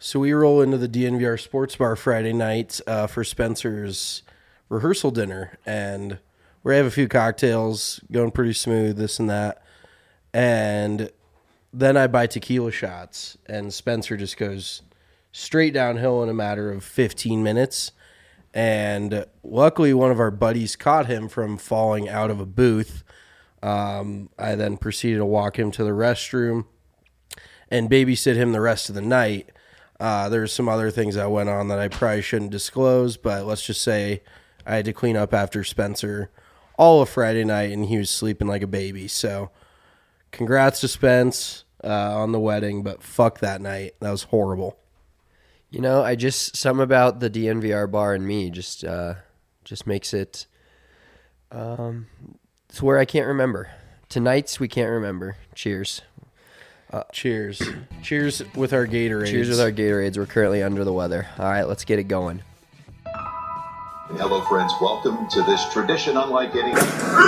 So we roll into the DNVR Sports Bar Friday night for Spencer's rehearsal dinner, and we have a few cocktails, going pretty smooth, this and that. And then I buy tequila shots, and Spencer just goes straight downhill in a matter of 15 minutes. And luckily, one of our buddies caught him from falling out of a booth. I then proceeded to walk him to the restroom and babysit him the rest of the night. There's some other things that went on that I probably shouldn't disclose, but let's just say I had to clean up after Spencer all of Friday night, and he was sleeping like a baby. So congrats to Spence on the wedding, but fuck that night. That was horrible. You know, something about the DNVR bar and me just makes it it's where I can't remember. Tonight's we can't remember. Cheers. Cheers. Cheers with our Gatorades. Cheers with our Gatorades. We're currently under the weather. All right, let's get it going. Hello, friends. Welcome to this tradition unlike any.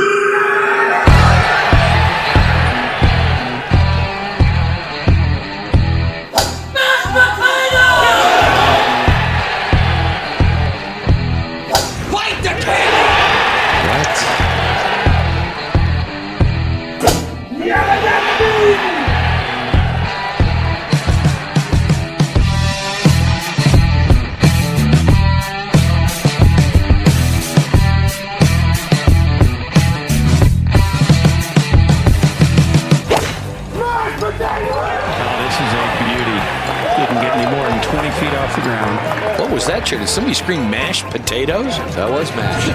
What was that, Did somebody scream mashed potatoes? That was mashed.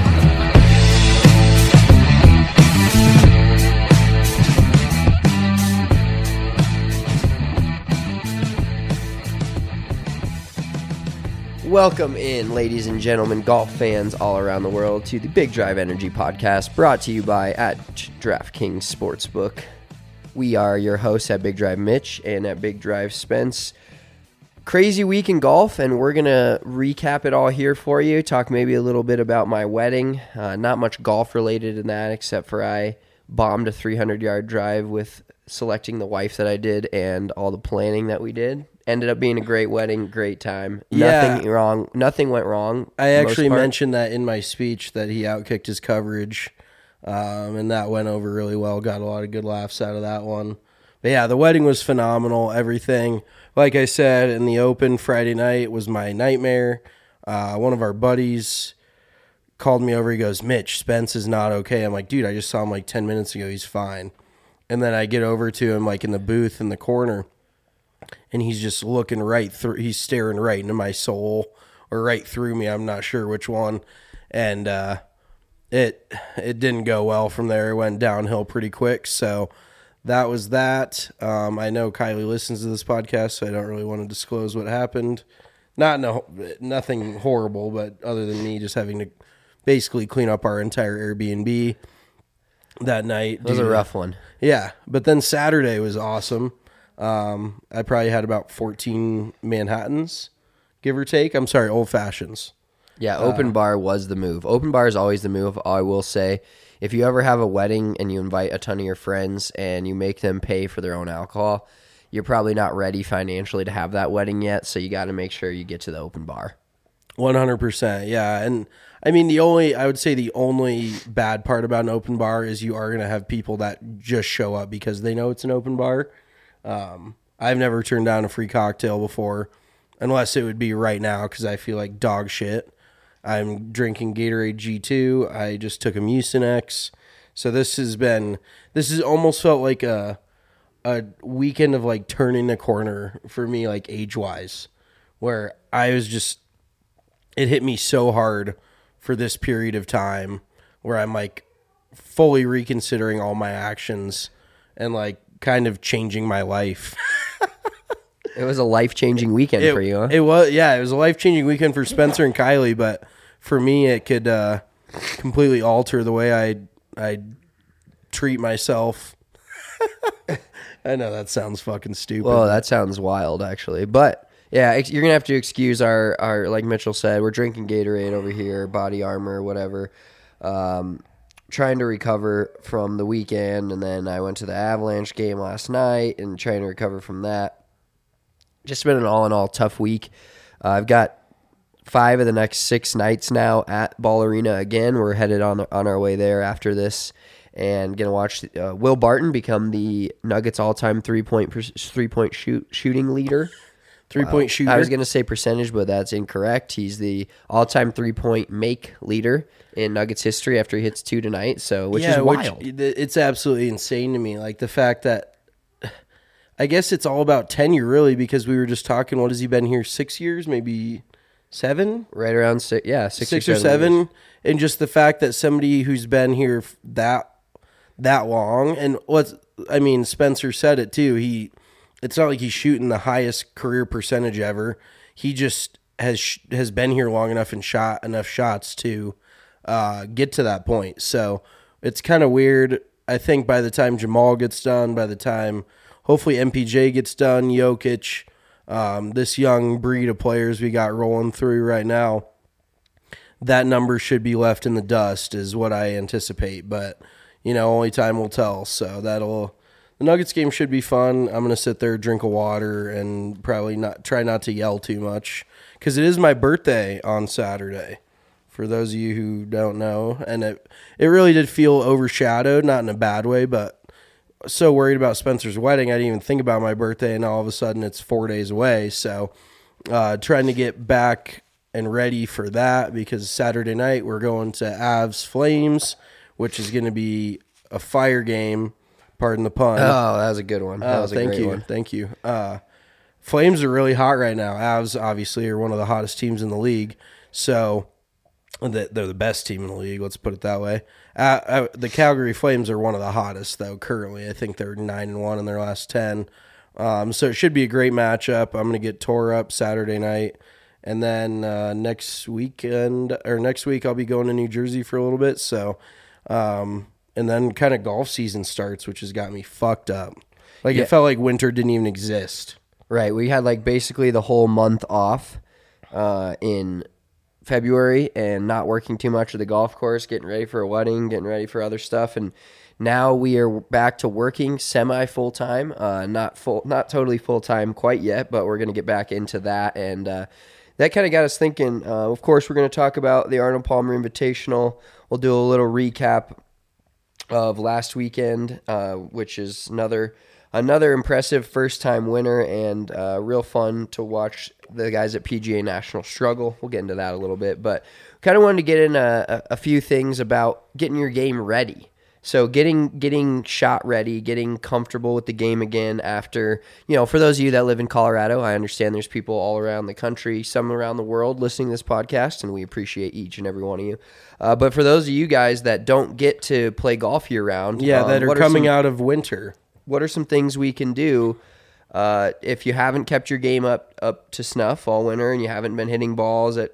Welcome in, ladies and gentlemen, golf fans all around the world, to the Big Drive Energy Podcast, brought to you by at DraftKings Sportsbook. We are your hosts at Big Drive Mitch and at Big Drive Spence. Crazy week in golf, and we're going to recap it all here for you, talk maybe a little bit about my wedding. Not much golf related in that, except for I bombed a 300-yard drive with selecting the wife that I did and all the planning that we did. Ended up being a great wedding, great time. Nothing wrong. Nothing went wrong. I actually mentioned that in my speech that he outkicked his coverage, and that went over really well. Got a lot of good laughs out of that one. But yeah, the wedding was phenomenal. Everything, like I said, in the open Friday night was my nightmare. One of our buddies called me over. He goes, "Mitch, Spence is not okay." I'm like, "Dude, I just saw him like 10 minutes ago. He's fine." And then I get over to him like in the booth in the corner, and he's just looking right through. He's staring right into my soul or right through me. I'm not sure which one. And it didn't go well from there. It went downhill pretty quick. So that was that. I know Kylie listens to this podcast, so I don't really want to disclose what happened. Nothing horrible, but other than me just having to basically clean up our entire Airbnb that night. It was a rough one. Yeah, but then Saturday was awesome. I probably had about 14 Manhattans, give or take. I'm sorry, old fashions. Yeah, open bar was the move. Open bar is always the move, I will say. If you ever have a wedding and you invite a ton of your friends and you make them pay for their own alcohol, you're probably not ready financially to have that wedding yet, so you got to make sure you get to the open bar. 100%, yeah. And I mean, I would say the only bad part about an open bar is you are going to have people that just show up because they know it's an open bar. I've never turned down a free cocktail before, unless it would be right now because I feel like dog shit. I'm drinking Gatorade G2. I just took a Mucinex. So this has almost felt like a weekend of like turning the corner for me, like age-wise, where it hit me so hard for this period of time where I'm like fully reconsidering all my actions and like kind of changing my life. It was a life-changing weekend for you, huh? It was a life-changing weekend for Spencer and Kylie, but for me, it could completely alter the way I treat myself. I know that sounds fucking stupid. Well, that sounds wild, actually. But, yeah, you're going to have to excuse our, like Mitchell said, we're drinking Gatorade over here, Body Armor, whatever. Trying to recover from the weekend, and then I went to the Avalanche game last night and trying to recover from that. just been an all-in-all tough week. I've got 5 of the next 6 nights now at Ball Arena again. We're headed on our way there after this, and gonna watch Will Barton become the Nuggets all-time three-point shooting leader. Three-point shooter. I was gonna say percentage, but that's incorrect. He's the all-time three-point make leader in Nuggets history after he hits 2 tonight. So, which is wild. It's absolutely insane to me. Like the fact that, I guess it's all about tenure, really, because we were just talking. What has he been here? 6 years, maybe 7? Right around 6, yeah, 6 or 7 years. And just the fact that somebody who's been here that long, and Spencer said it too. It's not like he's shooting the highest career percentage ever. He just has been here long enough and shot enough shots to get to that point. So it's kind of weird. I think by the time Jamal gets done, by the time hopefully MPJ gets done, Jokic, this young breed of players we got rolling through right now, that number should be left in the dust is what I anticipate. But, only time will tell. So the Nuggets game should be fun. I'm going to sit there, drink a water, and probably try not to yell too much because it is my birthday on Saturday, for those of you who don't know. And it really did feel overshadowed, not in a bad way, but so worried about Spencer's wedding, I didn't even think about my birthday, and all of a sudden it's 4 days away. So trying to get back and ready for that, because Saturday night we're going to Avs Flames, which is going to be a fire game. Pardon the pun. Oh, that was a good one. That was a great one. Thank you. Flames are really hot right now. Avs obviously are one of the hottest teams in the league. So they're the best team in the league. Let's put it that way. The Calgary Flames are one of the hottest though currently. I think they're 9-1 in their last 10. So it should be a great matchup. I'm going to get tore up Saturday night, and then next week I'll be going to New Jersey for a little bit. So. And then kind of golf season starts, which has got me fucked up. It felt like winter didn't even exist. Right. We had basically the whole month off in February and not working too much at the golf course, getting ready for a wedding, getting ready for other stuff. And now we are back to working semi full-time, not totally full-time quite yet, but we're going to get back into that. And that kind of got us thinking. Of course, we're going to talk about the Arnold Palmer Invitational. We'll do a little recap of last weekend, which is another impressive first-time winner, and real fun to watch the guys at PGA National struggle. We'll get into that a little bit, but kind of wanted to get in a few things about getting your game ready. So getting shot ready, getting comfortable with the game again after, for those of you that live in Colorado, I understand there's people all around the country, some around the world listening to this podcast, and we appreciate each and every one of you. But for those of you guys that don't get to play golf year-round. That are coming out of winter. What are some things we can do if you haven't kept your game up to snuff all winter and you haven't been hitting balls at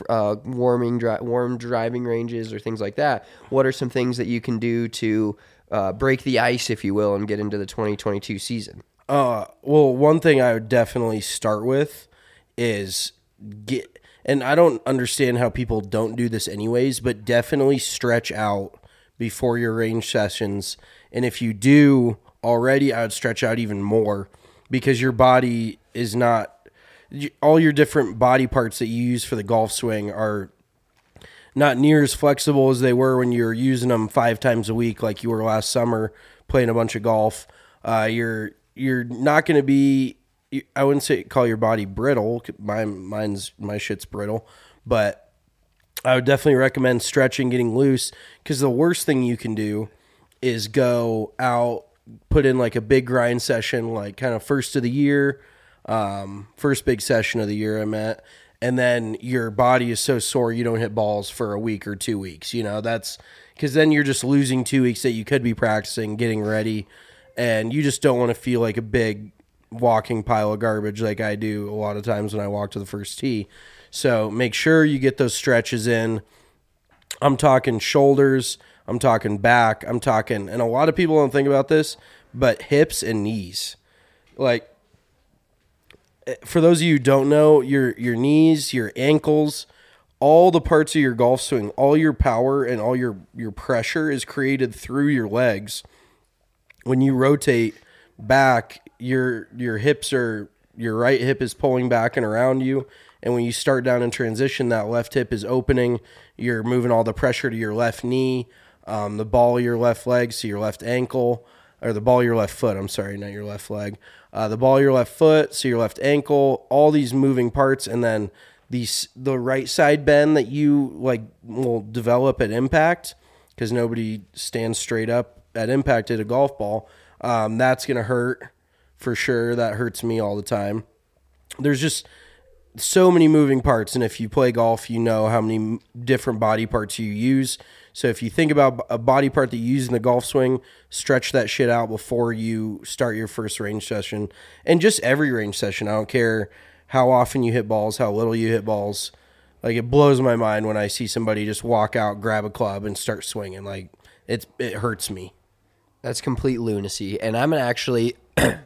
warm driving ranges or things like that? What are some things that you can do to break the ice, if you will, and get into the 2022 season? Well, one thing I would definitely start with is and I don't understand how people don't do this anyways, but definitely stretch out before your range sessions. And if you do already, I would stretch out even more, because your body is not, all your different body parts that you use for the golf swing are not near as flexible as they were when you were using them 5 times a week like you were last summer playing a bunch of golf. You're not going to be, I wouldn't call your body brittle. My shit's brittle, but I would definitely recommend stretching, getting loose, because the worst thing you can do is go out, put in a big grind session, kind of first of the year, first big session of the year I'm at, and then your body is so sore you don't hit balls for a week or 2 weeks. That's because then you're just losing 2 weeks that you could be practicing, getting ready, and you just don't want to feel like a big walking pile of garbage like I do a lot of times when I walk to the first tee. So make sure you get those stretches in. I'm talking shoulders, I'm talking back, I'm talking, and a lot of people don't think about this, but hips and knees. For those of you who don't know, your knees, your ankles, all the parts of your golf swing, all your power and all your pressure is created through your legs. When you rotate back, your hips are your right hip is pulling back and around you. And when you start down in transition, that left hip is opening. You're moving all the pressure to your left knee, the ball of your left leg, so your left ankle, or the ball of your left foot. I'm sorry, not your left leg. The ball of your left foot, so your left ankle, all these moving parts, and then the right side bend that you will develop at impact, because nobody stands straight up at impact at a golf ball. That's going to hurt for sure. That hurts me all the time. There's just so many moving parts, and if you play golf, you know how many different body parts you use. So if you think about a body part that you use in the golf swing, stretch that shit out before you start your first range session. And just every range session, I don't care how often you hit balls, how little you hit balls. Like, it blows my mind when I see somebody just walk out, grab a club, and start swinging. Like, it hurts me. That's complete lunacy. And I'm going to actually,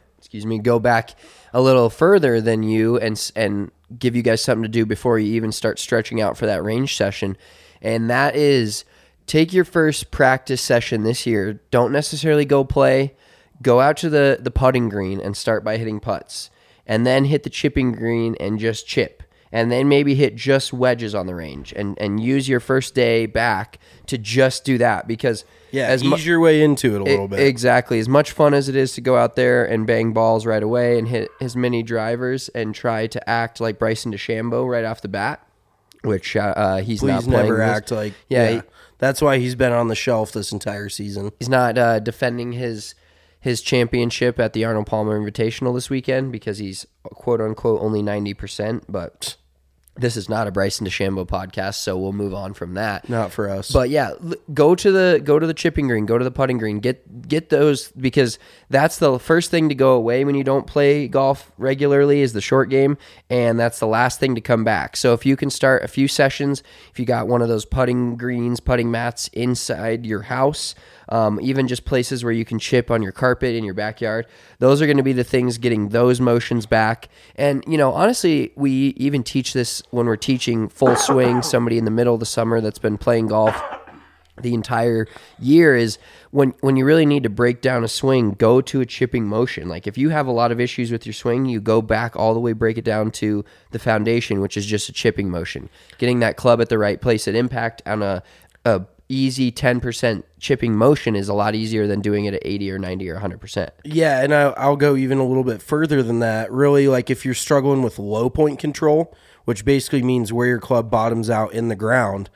go back a little further than you and give you guys something to do before you even start stretching out for that range session. And that is, take your first practice session this year. Don't necessarily go play. Go out to the putting green and start by hitting putts. And then hit the chipping green and just chip. And then maybe hit just wedges on the range. And use your first day back to just do that. Because ease your way into it a little bit. Exactly. As much fun as it is to go out there and bang balls right away and hit as many drivers and try to act like Bryson DeChambeau right off the bat, which he's not playing. Never act like... Yeah. That's why he's been on the shelf this entire season. He's not defending his championship at the Arnold Palmer Invitational this weekend because he's quote-unquote only 90%, but this is not a Bryson DeChambeau podcast, so we'll move on from that. Not for us. But yeah, go to the chipping green, go to the putting green, get those, because that's the first thing to go away when you don't play golf regularly is the short game, and that's the last thing to come back. So if you can start a few sessions, if you got one of those putting greens, putting mats inside your house, even just places where you can chip on your carpet in your backyard, those are going to be the things getting those motions back. And, honestly, we even teach this when we're teaching full swing, somebody in the middle of the summer that's been playing golf the entire year, is when you really need to break down a swing, go to a chipping motion. Like, if you have a lot of issues with your swing, you go back all the way, break it down to the foundation, which is just a chipping motion. Getting that club at the right place at impact on a easy 10% chipping motion is a lot easier than doing it at 80 or 90 or 100%. Yeah, and I'll go even a little bit further than that. Really, like, if you're struggling with low point control, which basically means where your club bottoms out in the ground,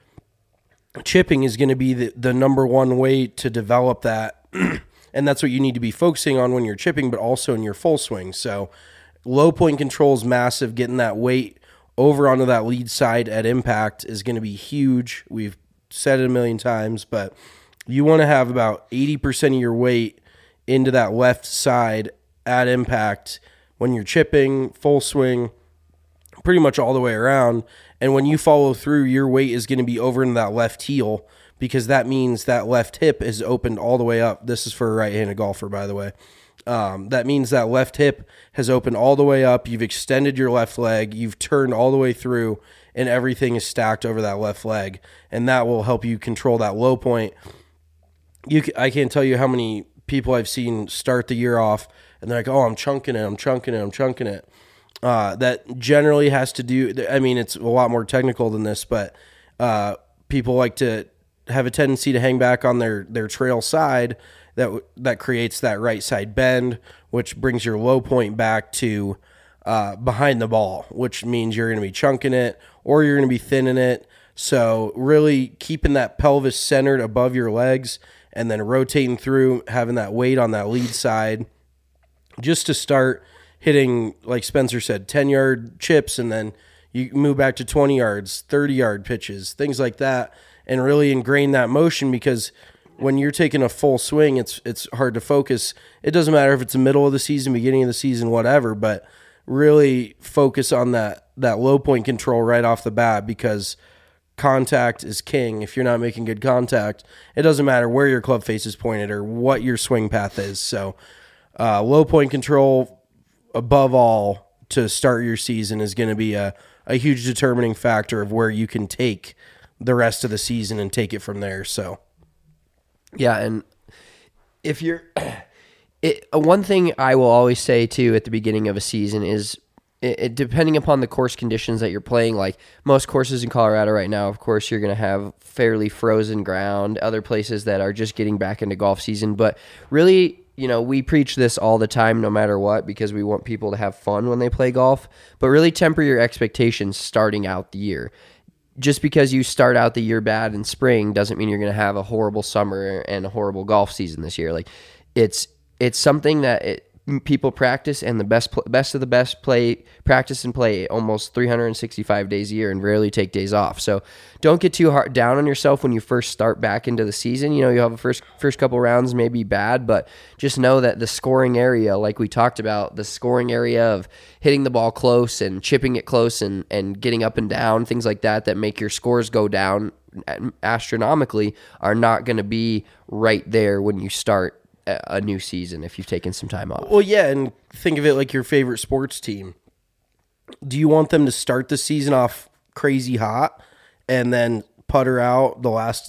chipping is going to be the number one way to develop that. And that's what you need to be focusing on when you're chipping, but also in your full swing. So low point control is massive. Getting that weight over onto that lead side at impact is going to be huge. We've said it a million times, but you want to have about 80% of your weight into that left side at impact when you're chipping, full swing, pretty much all the way around. And when you follow through, your weight is going to be over in that left heel, because that means that left hip is opened all the way up. This is for a right-handed golfer, by the way. That means that left hip has opened all the way up. You've extended your left leg. You've turned all the way through, and everything is stacked over that left leg. And that will help you control that low point. I can't tell you how many people I've seen start the year off, and they're like, oh, I'm chunking it. That generally has to do, I mean, it's a lot more technical than this, but people like to have a tendency to hang back on their trail side. That creates that right side bend, which brings your low point back to behind the ball, which means you're going to be chunking it or you're going to be thinning it. So really keeping that pelvis centered above your legs and then rotating through, having that weight on that lead side just to start hitting, like Spencer said, 10-yard chips, and then you move back to 20 yards, 30-yard pitches, things like that, and really ingrain that motion, because when you're taking a full swing, it's hard to focus. It doesn't matter if it's the middle of the season, beginning of the season, whatever, but really focus on that low point control right off the bat, because contact is king. If you're not making good contact, it doesn't matter where your club face is pointed or what your swing path is. So low point control, above all, to start your season is going to be a huge determining factor of where you can take the rest of the season and take it from there. So yeah, and if you're One thing I will always say too at the beginning of a season is, depending upon the course conditions that you're playing, like most courses in Colorado right now, of course, you're going to have fairly frozen ground, other places that are just getting back into golf season. But really, we preach this all the time, no matter what, because we want people to have fun when they play golf. But really temper your expectations starting out the year. Just because you start out the year bad in spring doesn't mean you're going to have a horrible summer and a horrible golf season this year. Like it's something that people practice, and the best of the best practice and play almost 365 days a year and rarely take days off. So don't get too hard down on yourself when you first start back into the season. You have a first couple rounds may be bad, but just know that the scoring area, like we talked about, the scoring area of hitting the ball close and chipping it close and getting up and down, things like that make your scores go down astronomically, are not going to be right there when you start a new season if you've taken some time off. Well, yeah, and think of it like your favorite sports team. Do you want them to start the season off crazy hot and then putter out? What are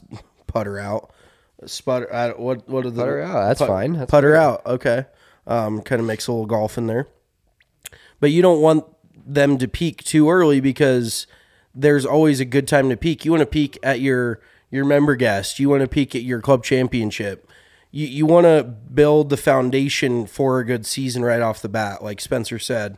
the putter out? That's fine. That's putter out. Okay, kind of mix a little golf in there, but you don't want them to peak too early, because there's always a good time to peak. You want to peak at your member guest. You want to peak at your club championship. You want to build the foundation for a good season right off the bat, like Spencer said.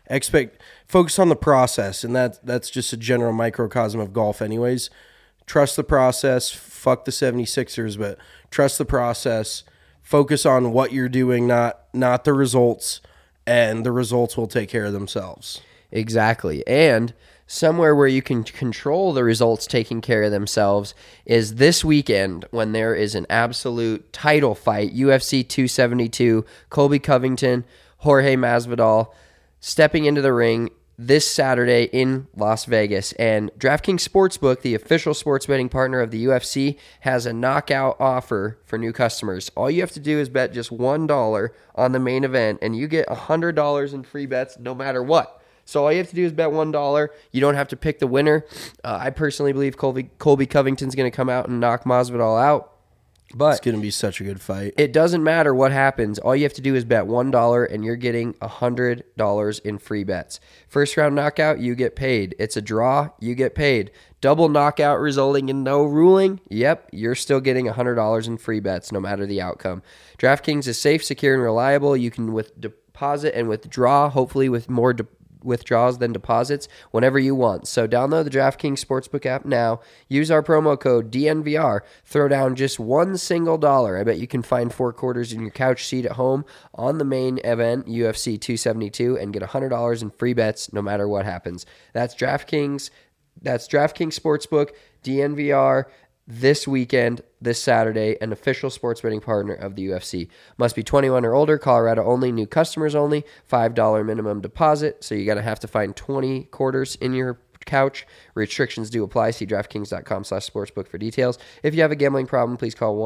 Focus on the process, and that's just a general microcosm of golf anyways. Trust the process. Fuck the 76ers, but trust the process. Focus on what you're doing, not the results, and the results will take care of themselves. Exactly. And somewhere where you can control the results taking care of themselves is this weekend, when there is an absolute title fight. UFC 272, Colby Covington, Jorge Masvidal stepping into the ring this Saturday in Las Vegas. And DraftKings Sportsbook, the official sports betting partner of the UFC, has a knockout offer for new customers. All you have to do is bet just $1 on the main event, and you get $100 in free bets no matter what. So all you have to do is bet $1. You don't have to pick the winner. I personally believe Colby Covington's going to come out and knock Masvidal out. But it's going to be such a good fight. It doesn't matter what happens. All you have to do is bet $1, and you're getting $100 in free bets. First round knockout, you get paid. It's a draw, you get paid. Double knockout resulting in no ruling, yep, you're still getting $100 in free bets no matter the outcome. DraftKings is safe, secure, and reliable. You can deposit and withdraw, hopefully with more withdrawals than deposits, whenever you want. So download the DraftKings Sportsbook app now. Use our promo code DNVR. Throw down just $1 single. I bet you can find 4 quarters in your couch seat at home on the main event, UFC 272, and get $100 in free bets no matter what happens. That's DraftKings Sportsbook, DNVR. This weekend, this Saturday, an official sports betting partner of the UFC. Must be 21 or older, Colorado only, new customers only, $5 minimum deposit, so you're going to have to find 20 quarters in your couch. Restrictions do apply. See DraftKings.com/sportsbook for details. If you have a gambling problem, please call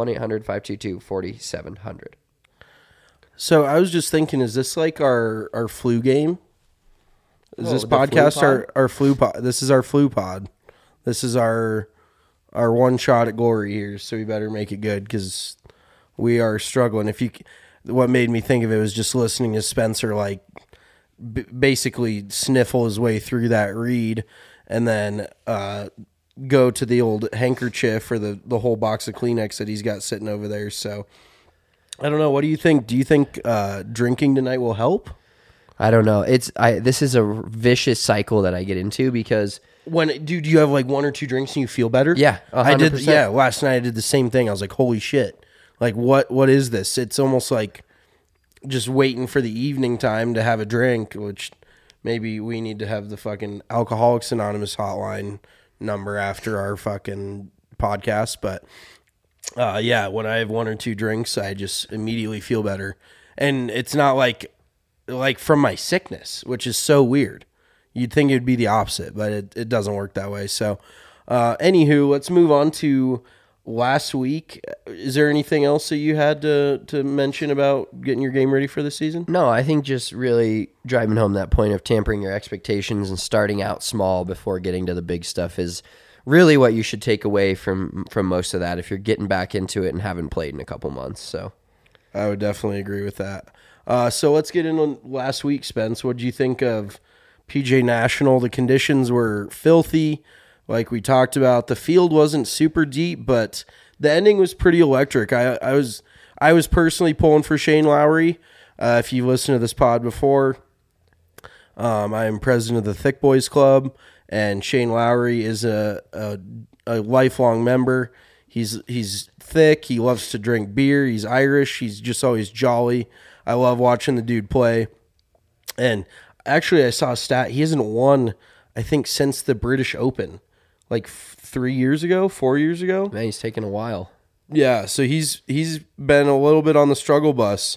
1-800-522-4700. So I was just thinking, is this like our flu game? Is this podcast our flu pod? This is our flu pod. This is our one shot at glory here, so we better make it good, because we are struggling. What made me think of it was just listening to Spencer basically sniffle his way through that read, and then go to the old handkerchief or the whole box of Kleenex that he's got sitting over there. So I don't know. What do you think? Do you think drinking tonight will help? I don't know. This is a vicious cycle that I get into, because do you have like 1 or 2 drinks and you feel better? Yeah, 100%. I did. Yeah, last night I did the same thing. I was like, holy shit! Like, what is this? It's almost like just waiting for the evening time to have a drink, which maybe we need to have the fucking Alcoholics Anonymous hotline number after our fucking podcast. But yeah, when I have 1 or 2 drinks, I just immediately feel better, and it's not like from my sickness, which is so weird. You'd think it would be the opposite, but it doesn't work that way. So, anywho, let's move on to last week. Is there anything else that you had to mention about getting your game ready for the season? No, I think just really driving home that point of tampering your expectations and starting out small before getting to the big stuff is really what you should take away from most of that if you're getting back into it and haven't played in a couple months. So, I would definitely agree with that. So let's get into last week, Spence. What did you think of PJ National? The conditions were filthy, like we talked about. The field wasn't super deep, but the ending was pretty electric. I was personally pulling for Shane Lowry. If you've listened to this pod before, I am president of the Thick Boys Club, and Shane Lowry is a lifelong member. He's thick. He loves to drink beer. He's Irish. He's just always jolly. I love watching the dude play. And actually, I saw a stat. He hasn't won, I think, since the British Open, like 4 years ago. Man, he's taken a while. Yeah, so he's been a little bit on the struggle bus,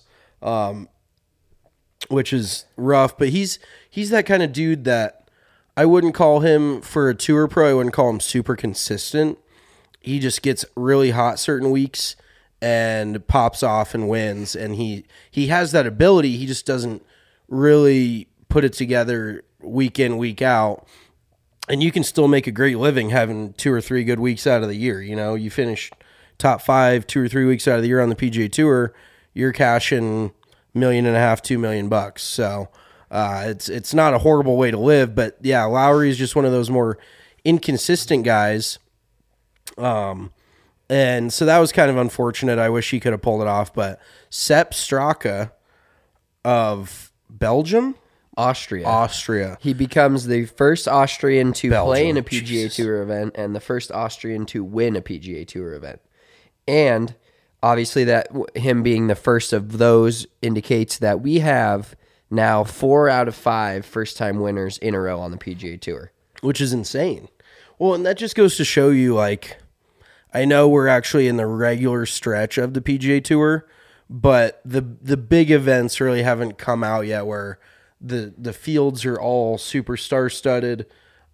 which is rough. But he's that kind of dude that I wouldn't call him for a tour pro. I wouldn't call him super consistent. He just gets really hot certain weeks and pops off and wins. And he has that ability. He just doesn't really put it together week in, week out. And you can still make a great living having 2 or 3 good weeks out of the year. You know, you finish top 5, 2 or 3 weeks out of the year on the PGA Tour, you're cashing $1.5 million, $2 million. So it's not a horrible way to live. But yeah, Lowry is just one of those more inconsistent guys. And so that was kind of unfortunate. I wish he could have pulled it off, but Sepp Straka of Belgium, Austria. He becomes the first Austrian to play in a PGA Jesus. Tour event and the first Austrian to win a PGA Tour event. And obviously that him being the first of those indicates that we have now 4 out of 5 first-time winners in a row on the PGA Tour. which is insane. Well, and that just goes to show you, like, I know we're actually in the regular stretch of the PGA Tour, but the big events really haven't come out yet where the fields are all super star-studded.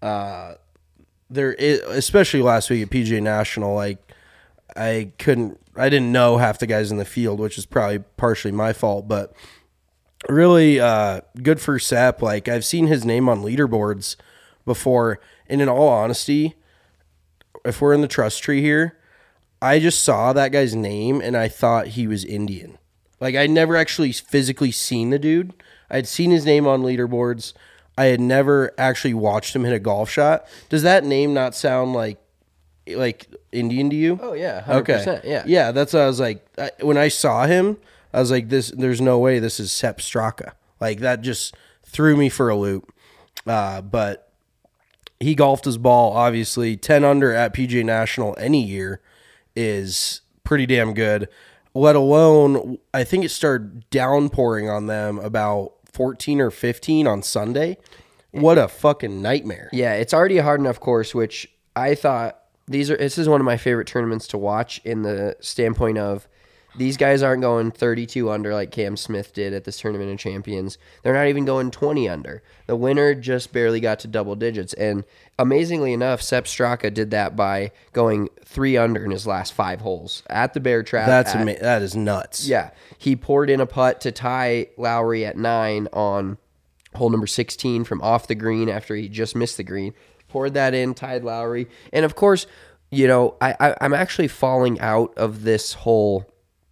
There is, especially last week at PGA National, like, I didn't know half the guys in the field, which is probably partially my fault, but really good for Sepp. Like, I've seen his name on leaderboards before, and in all honesty, if we're in the trust tree here, I just saw that guy's name and I thought he was Indian. Like, I'd never actually physically seen the dude. I'd seen his name on leaderboards. I had never actually watched him hit a golf shot. Does that name not sound like Indian to you? Oh, yeah, 100%. Okay. Yeah. Yeah, that's what I was like. When I saw him, I was like, there's no way this is Sepp Straka. Like, that just threw me for a loop. But he golfed his ball, obviously. 10 under at PGA National any year is pretty damn good, let alone, I think it started downpouring on them about 14 or 15 on Sunday. What a fucking nightmare. Yeah, it's already a hard enough course, which I thought this is one of my favorite tournaments to watch in the standpoint of these guys aren't going 32 under like Cam Smith did at this Tournament of Champions. They're not even going 20 under. The winner just barely got to double digits. And amazingly enough, Sepp Straka did that by going 3 under in his last 5 holes at the Bear Trap. That is nuts. Yeah. He poured in a putt to tie Lowry at 9 on hole number 16 from off the green after he just missed the green. Poured that in, tied Lowry. And of course, you know, I'm actually falling out of this whole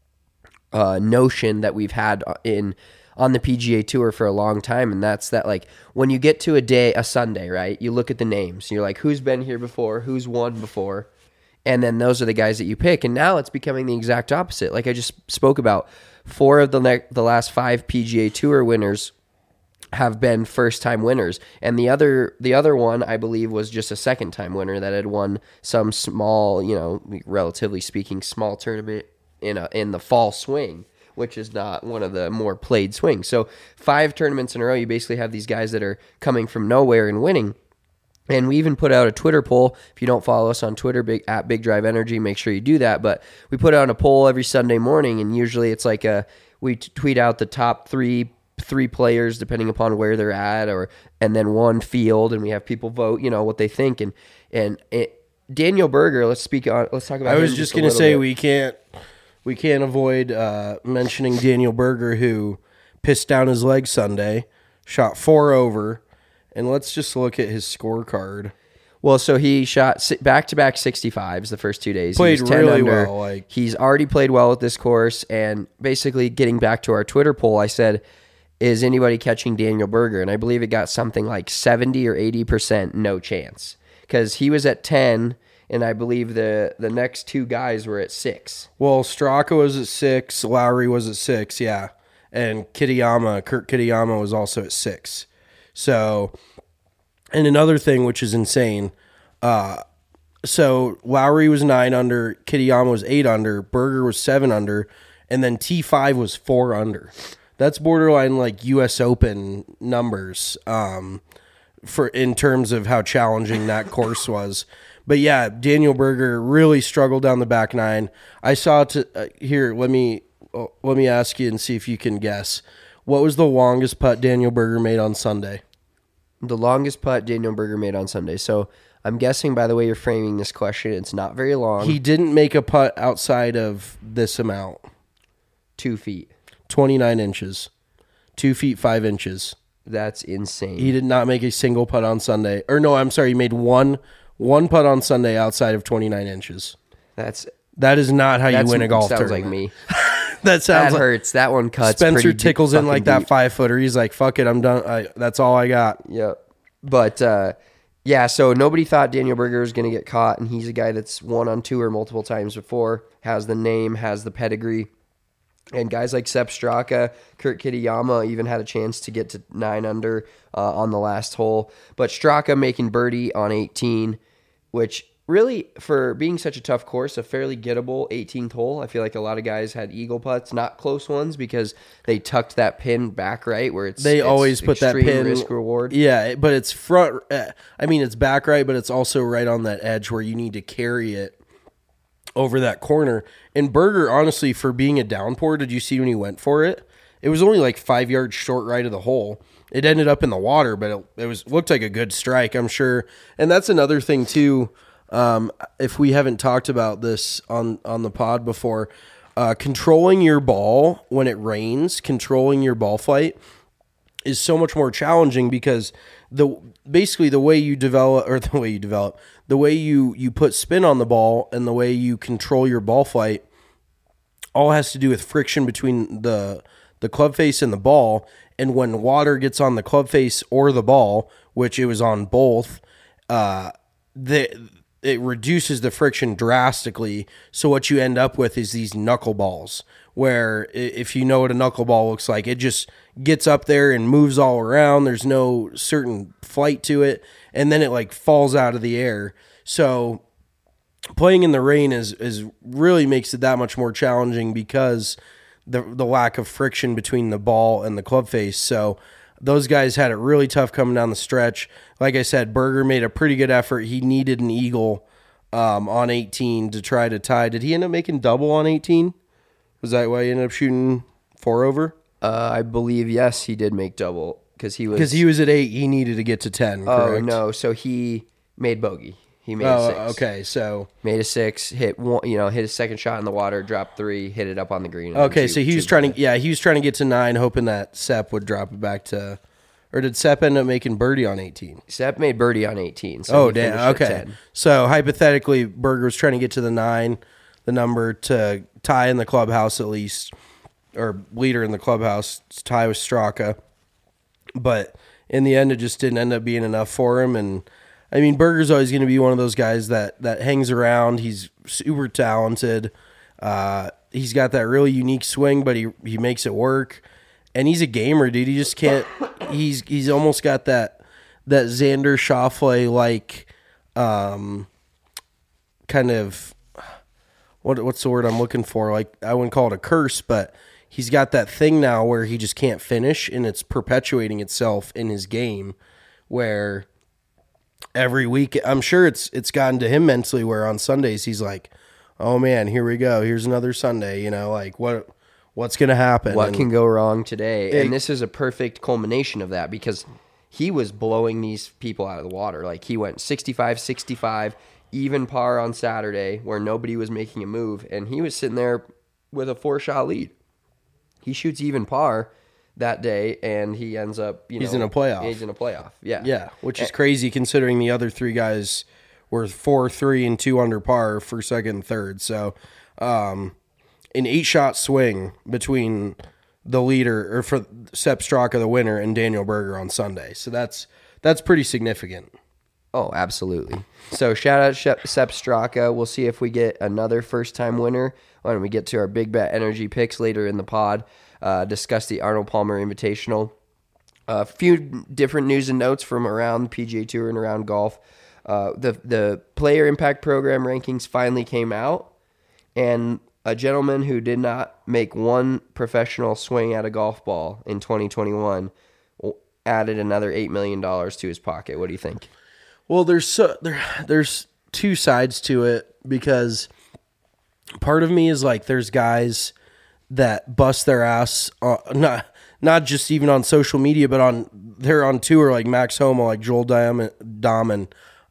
notion that we've had on the PGA Tour for a long time, and that's that, like, when you get to a Sunday, right, you look at the names, you're like, who's been here before, who's won before, and then those are the guys that you pick. And now it's becoming the exact opposite. Like I just spoke about, 4 of the last 5 PGA Tour winners have been first-time winners, and the other one, I believe, was just a second-time winner that had won some small, you know, relatively speaking, small tournament in the fall swing, which is not one of the more played swings. So 5 tournaments in a row, you basically have these guys that are coming from nowhere and winning. And we even put out a Twitter poll. If you don't follow us on Twitter, at Big Drive Energy, make sure you do that. But we put out a poll every Sunday morning, and usually it's like we tweet out the top three players depending upon where they're at, and then one field, and we have people vote, you know, what they think. And Daniel Berger, let's talk about. I was just gonna say we can't avoid mentioning Daniel Berger, who pissed down his leg Sunday, shot 4 over, and let's just look at his scorecard. Well, so he shot back-to-back 65s the first 2 days. Played He was 10 really under. well. He's already played well at this course, and basically getting back to our Twitter poll, I said, is anybody catching Daniel Berger? And I believe it got something like 70 or 80% no chance, because he was at 10, and I believe the next two guys were at 6. Well, Straka was at 6, Lowry was at 6, yeah. And Kurt Kitayama was also at 6. So, and another thing which is insane, so Lowry was 9 under, Kitayama was 8 under, Berger was 7 under, and then T5 was 4 under. That's borderline like U.S. Open numbers for in terms of how challenging that course was. But yeah, Daniel Berger really struggled down the back nine. I saw here. Let me ask you and see if you can guess. What was the longest putt Daniel Berger made on Sunday? The longest putt Daniel Berger made on Sunday. So I'm guessing by the way you're framing this question, it's not very long. He didn't make a putt outside of this amount. 2 feet. 29 inches. 2 feet 5 inches. That's insane. He did not make a single putt on Sunday. Or no, I'm sorry. He made one putt on Sunday outside of 29 inches. That is not how you win a golf tournament. Sounds like me. That hurts. That one cuts. Spencer tickles in like that deep. 5-footer. He's like, fuck it, I'm done. That's all I got. Yep. But, yeah, so nobody thought Daniel Berger was going to get caught, and he's a guy that's won on tour multiple times before, has the name, has the pedigree. And guys like Sepp Straka, Kurt Kitayama even had a chance to get to 9 under on the last hole. But Straka making birdie on 18, which really, for being such a tough course, a fairly gettable 18th hole. I feel like a lot of guys had eagle putts, not close ones, because they tucked that pin back right where it's always put that pin risk reward. Yeah, but it's front. It's back right, but it's also right on that edge where you need to carry it over that corner. And Berger, honestly, for being a downpour, did you see when he went for it? It was only like 5 yards short right of the hole. It ended up in the water, but it looked like a good strike, I'm sure. And that's another thing too. If we haven't talked about this on the pod before, controlling your ball when it rains, controlling your ball flight is so much more challenging because the way you put spin on the ball and the way you control your ball flight all has to do with friction between the club face and the ball. And when water gets on the club face or the ball, which it was on both, it reduces the friction drastically. So what you end up with is these knuckleballs, where if you know what a knuckleball looks like, it just gets up there and moves all around. There's no certain flight to it, and then it like falls out of the air. So playing in the rain is really makes it that much more challenging because the lack of friction between the ball and the club face. So those guys had it really tough coming down the stretch. Like I said, Berger made a pretty good effort. He needed an eagle on 18 to try to tie. Did he end up making double on 18? Was that why he ended up shooting 4 over? I believe, yes, he did make double because he was at 8. He needed to get to 10. Correct? Oh, no. So he made bogey. He made a 6. Okay, so made a 6, hit one, hit his second shot in the water, dropped 3, hit it up on the green. Okay, so he was trying to get to 9, hoping that Sepp would drop it back to, or did Sepp end up making birdie on 18? Sepp made birdie on 18. So oh, damn. Okay, so hypothetically, Berger was trying to get to the 9, the number to tie in the clubhouse at least, or leader in the clubhouse, tie with Straka, but in the end, it just didn't end up being enough for him. And I mean, Berger's always going to be one of those guys that hangs around. He's super talented. He's got that really unique swing, but he makes it work. And he's a gamer, dude. He just can't. He's almost got that Xander Schauffele like kind of what's the word I'm looking for? Like, I wouldn't call it a curse, but he's got that thing now where he just can't finish, and it's perpetuating itself in his game, where every week, I'm sure it's gotten to him mentally, where on Sundays he's like, oh man, here we go. Here's another Sunday, like what's going to happen? What can go wrong today? And this is a perfect culmination of that, because he was blowing these people out of the water. Like, he went 65-65, even par on Saturday, where nobody was making a move, and he was sitting there with a 4-shot lead. He shoots even par. that day, and he ends up, He's in a playoff. He's in a playoff. Yeah. Yeah, which is crazy considering the other three guys were 4, 3, and 2 under par for second and third. So, an 8-shot swing between the leader, or for Sepp Straka, the winner, and Daniel Berger on Sunday. So that's pretty significant. Oh, absolutely. So shout out Sepp Straka. We'll see if we get another first-time winner when we get to our Big Bet Energy picks later in the pod. Discuss the Arnold Palmer Invitational. A few different news and notes from around the PGA Tour and around golf. The Player Impact Program rankings finally came out, and a gentleman who did not make one professional swing at a golf ball in 2021 added another $8 million to his pocket. What do you think? Well, there's two sides to it, because part of me is like, there's guys that bust their ass, not just even on social media, but they're on tour, like Max Homa, like Joel Dahman,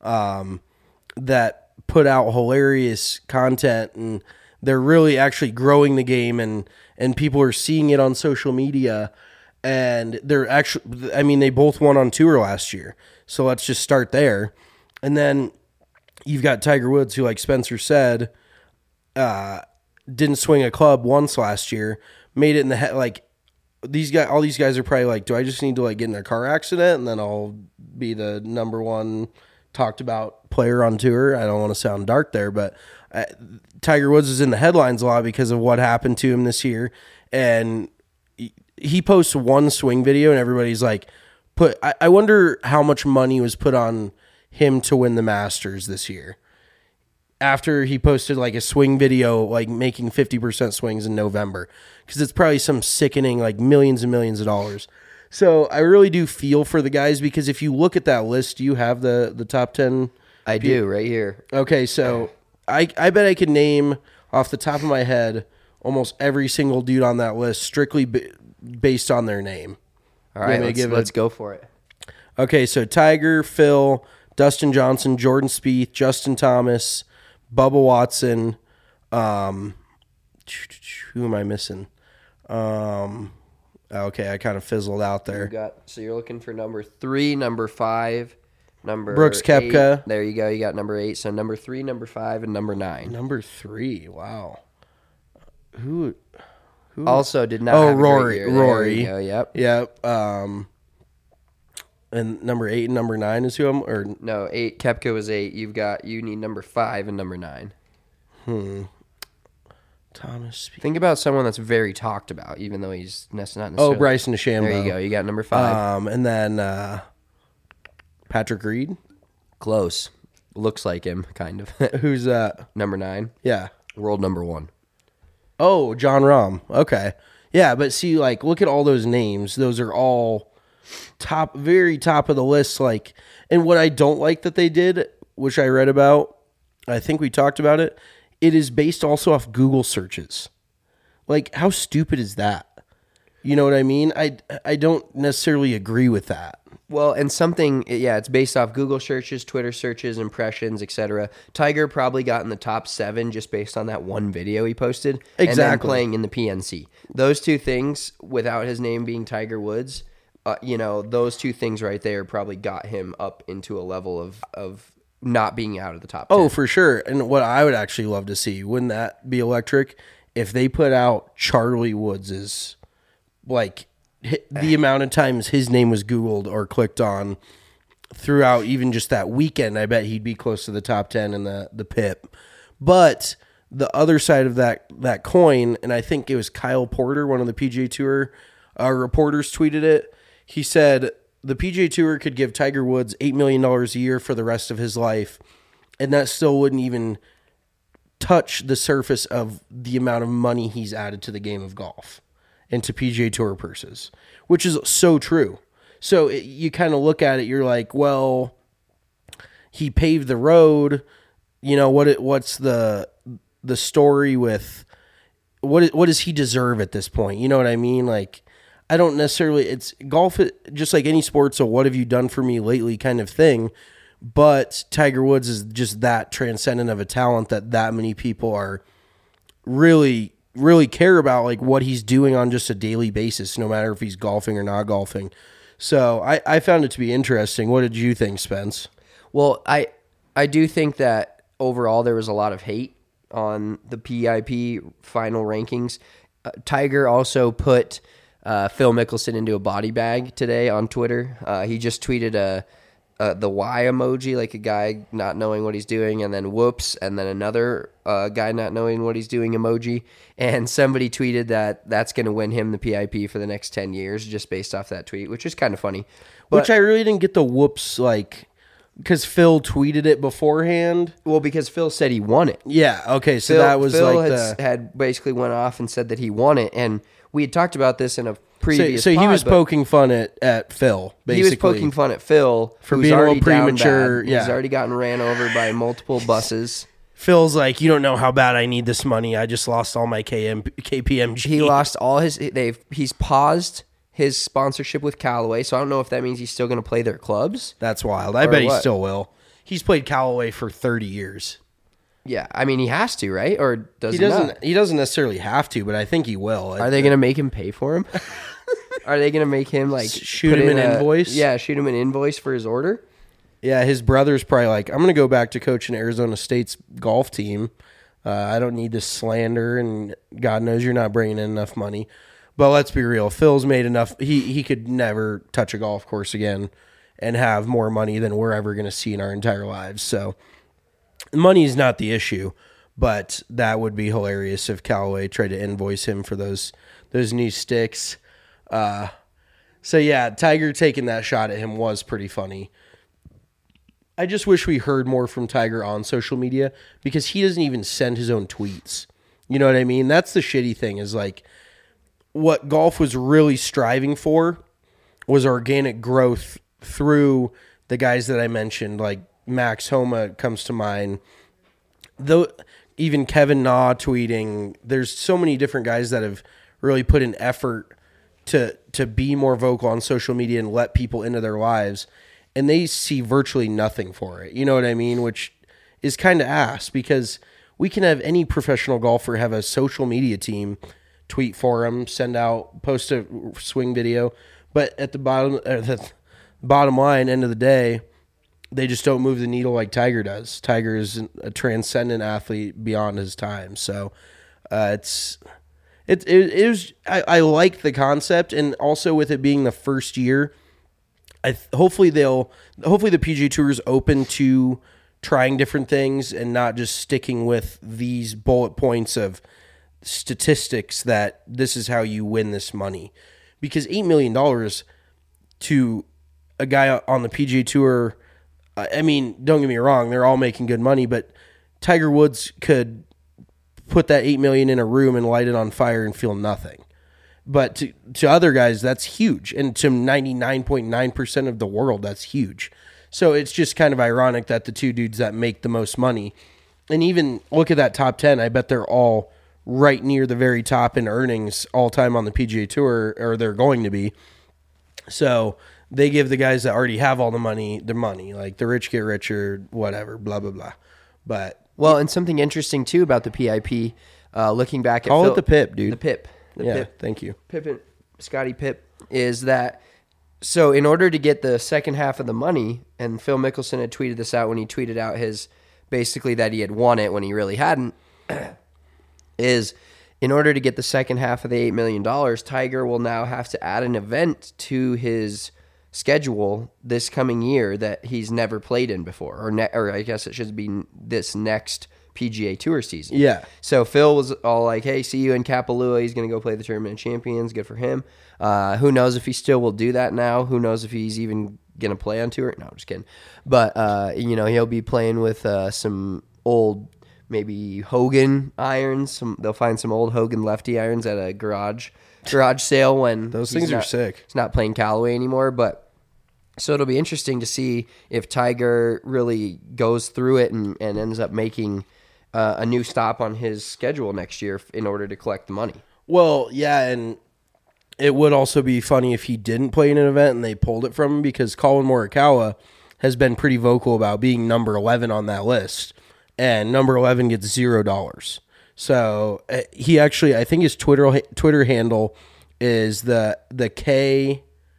that put out hilarious content, and they're really actually growing the game, and people are seeing it on social media, and they're actually, I mean, they both won on tour last year. So let's just start there. And then you've got Tiger Woods, who, like Spencer said, didn't swing a club once last year, made it in the head. Like, all these guys are probably like, do I just need to like get in a car accident and then I'll be the number one talked about player on tour? I don't want to sound dark there, but Tiger Woods is in the headlines a lot because of what happened to him this year. And he posts one swing video and everybody's like, I wonder how much money was put on him to win the Masters this year. After he posted like a swing video, like making 50% swings in November, because it's probably some sickening, like millions and millions of dollars. So I really do feel for the guys, because if you look at that list, do you have the top 10? I do, right here. Okay, so I bet I could name off the top of my head almost every single dude on that list strictly based on their name. All right, let's go for it. Okay, so Tiger, Phil, Dustin Johnson, Jordan Spieth, Justin Thomas, Bubba Watson. Who am I missing? Okay, I kind of fizzled out there. So you're looking for number 3, number 5, number Brooks Koepka. 8. There you go. You got number 8. So number 3, number 5, and number 9. Number 3. Wow. Who also did not have Rory. a great year. Rory. There you go, yep. And number 8 and number 9 is who I'm, or no, 8. Koepka was 8. You need number 5 and number 9. Thomas. Think about someone that's very talked about, even though he's not necessarily. Bryson DeChambeau. There you go. You got number 5. And then Patrick Reed. Close. Looks like him, kind of. Who's that? Number 9. Yeah. World number 1. Oh, John Rahm. Okay. Yeah, but see, like, look at all those names. Those are all very top of the list. Like, and what I don't like that they did, which I read about, I think we talked about it, it is based also off Google searches. Like, how stupid is that? You know what I mean? I don't necessarily agree with that. Well, and it's based off Google searches, Twitter searches, impressions, etc. Tiger probably got in the top 7 just based on that one video he posted. Exactly. And then playing in the PNC. Those two things, without his name being Tiger Woods, those two things right there probably got him up into a level of not being out of the top 10. Oh, for sure. And what I would actually love to see, wouldn't that be electric, if they put out Charlie Woods's, like, the amount of times his name was Googled or clicked on throughout even just that weekend, I bet he'd be close to the top 10 in the PIP. But the other side of that coin, and I think it was Kyle Porter, one of the PGA Tour reporters, tweeted it. He said the PGA Tour could give Tiger Woods $8 million a year for the rest of his life, and that still wouldn't even touch the surface of the amount of money he's added to the game of golf and to PGA Tour purses, which is so true. So you kind of look at it, you're like, well, he paved the road. You know, what's the story with what does he deserve at this point? You know what I mean? Like, I don't necessarily, it's golf, just like any sport. So what have you done for me lately kind of thing. But Tiger Woods is just that transcendent of a talent that many people are really really care about like what he's doing on just a daily basis, no matter if he's golfing or not golfing. So I found it to be interesting. What did you think, Spence? Well, I do think that overall there was a lot of hate on the PIP final rankings. Tiger also put Phil Mickelson into a body bag today on Twitter. He just tweeted the Y emoji, like a guy not knowing what he's doing, and then whoops, and then another guy not knowing what he's doing emoji. And somebody tweeted that that's going to win him the PIP for the next 10 years just based off that tweet, which is kind of funny. But, which I really didn't get the whoops, like, because Phil tweeted it beforehand. Well, because Phil said he won it. Yeah, okay, so Phil, that was Phil like had basically went off and said that he won it, and we had talked about this in a previous So he pod, was but poking fun at Phil, basically. He was poking fun at Phil for who's being a little already down premature. bad. Yeah. He's already gotten ran over by multiple buses. Phil's like, you don't know how bad I need this money. I just lost all my KPMG. He lost all his. He's paused his sponsorship with Callaway, so I don't know if that means he's still going to play their clubs. That's wild. I Or bet he what? still will. He's played Callaway for 30 years. Yeah, I mean he has to, right? Or does He he doesn't. not? He doesn't necessarily have to, but I think he will. Are they going to make him pay for him? Are they going to make him like Shoot put him in an a- invoice? Yeah, shoot him an invoice for his order. Yeah, his brother's probably like, I'm going to go back to coaching Arizona State's golf team. I don't need this slander, and God knows you're not bringing in enough money. But let's be real. Phil's made enough. He could never touch a golf course again and have more money than we're ever going to see in our entire lives. So money is not the issue, but that would be hilarious if Callaway tried to invoice him for those new sticks. So yeah, Tiger taking that shot at him was pretty funny. I just wish we heard more from Tiger on social media because he doesn't even send his own tweets. You know what I mean? That's the shitty thing is like what golf was really striving for was organic growth through the guys that I mentioned, like Max Homa comes to mind. Though even Kevin Na tweeting, there's so many different guys that have really put an effort to be more vocal on social media and let people into their lives, and they see virtually nothing for it. You know what I mean? Which is kind of ass because we can have any professional golfer have a social media team, tweet for them, send out, post a swing video, but at the bottom line, end of the day, they just don't move the needle like Tiger does. Tiger is a transcendent athlete beyond his time. So it was. I like the concept, and also with it being the first year, hopefully the PGA Tour is open to trying different things and not just sticking with these bullet points of statistics that this is how you win this money. Because $8 million to a guy on the PGA Tour, I mean, don't get me wrong, they're all making good money, but Tiger Woods could put that $8 million in a room and light it on fire and feel nothing. But to other guys, that's huge. And to 99.9% of the world, that's huge. So it's just kind of ironic that the two dudes that make the most money, and even look at that top 10, I bet they're all right near the very top in earnings all time on the PGA Tour, or they're going to be. So they give the guys that already have all the money their money. Like the rich get richer, whatever, blah, blah, blah. But Well, and something interesting too about the PIP, looking back at call Phil, it the PIP, dude. The PIP. PIP. Thank you. Pippen, Scotty Pip, is that so in order to get the second half of the money, and Phil Mickelson had tweeted this out when he tweeted out his basically that he had won it when he really hadn't, is in order to get the second half of the $8 million, Tiger will now have to add an event to his schedule this coming year that he's never played in before, or I guess it should be this next PGA Tour season. Yeah. So Phil was all like, hey, see you in Kapalua. He's going to go play the Tournament of Champions. Good for him. Who knows if he still will do that now? Who knows if he's even going to play on tour? No, I'm just kidding. But, he'll be playing with some old, maybe Hogan irons. They'll find some old Hogan lefty irons at a garage sale when Those things are sick. He's not playing Callaway anymore, but so it'll be interesting to see if Tiger really goes through it and ends up making a new stop on his schedule next year in order to collect the money. Well, yeah, and it would also be funny if he didn't play in an event and they pulled it from him, because Colin Morikawa has been pretty vocal about being number 11 on that list, and number 11 gets $0. So he actually, I think his Twitter handle is the K.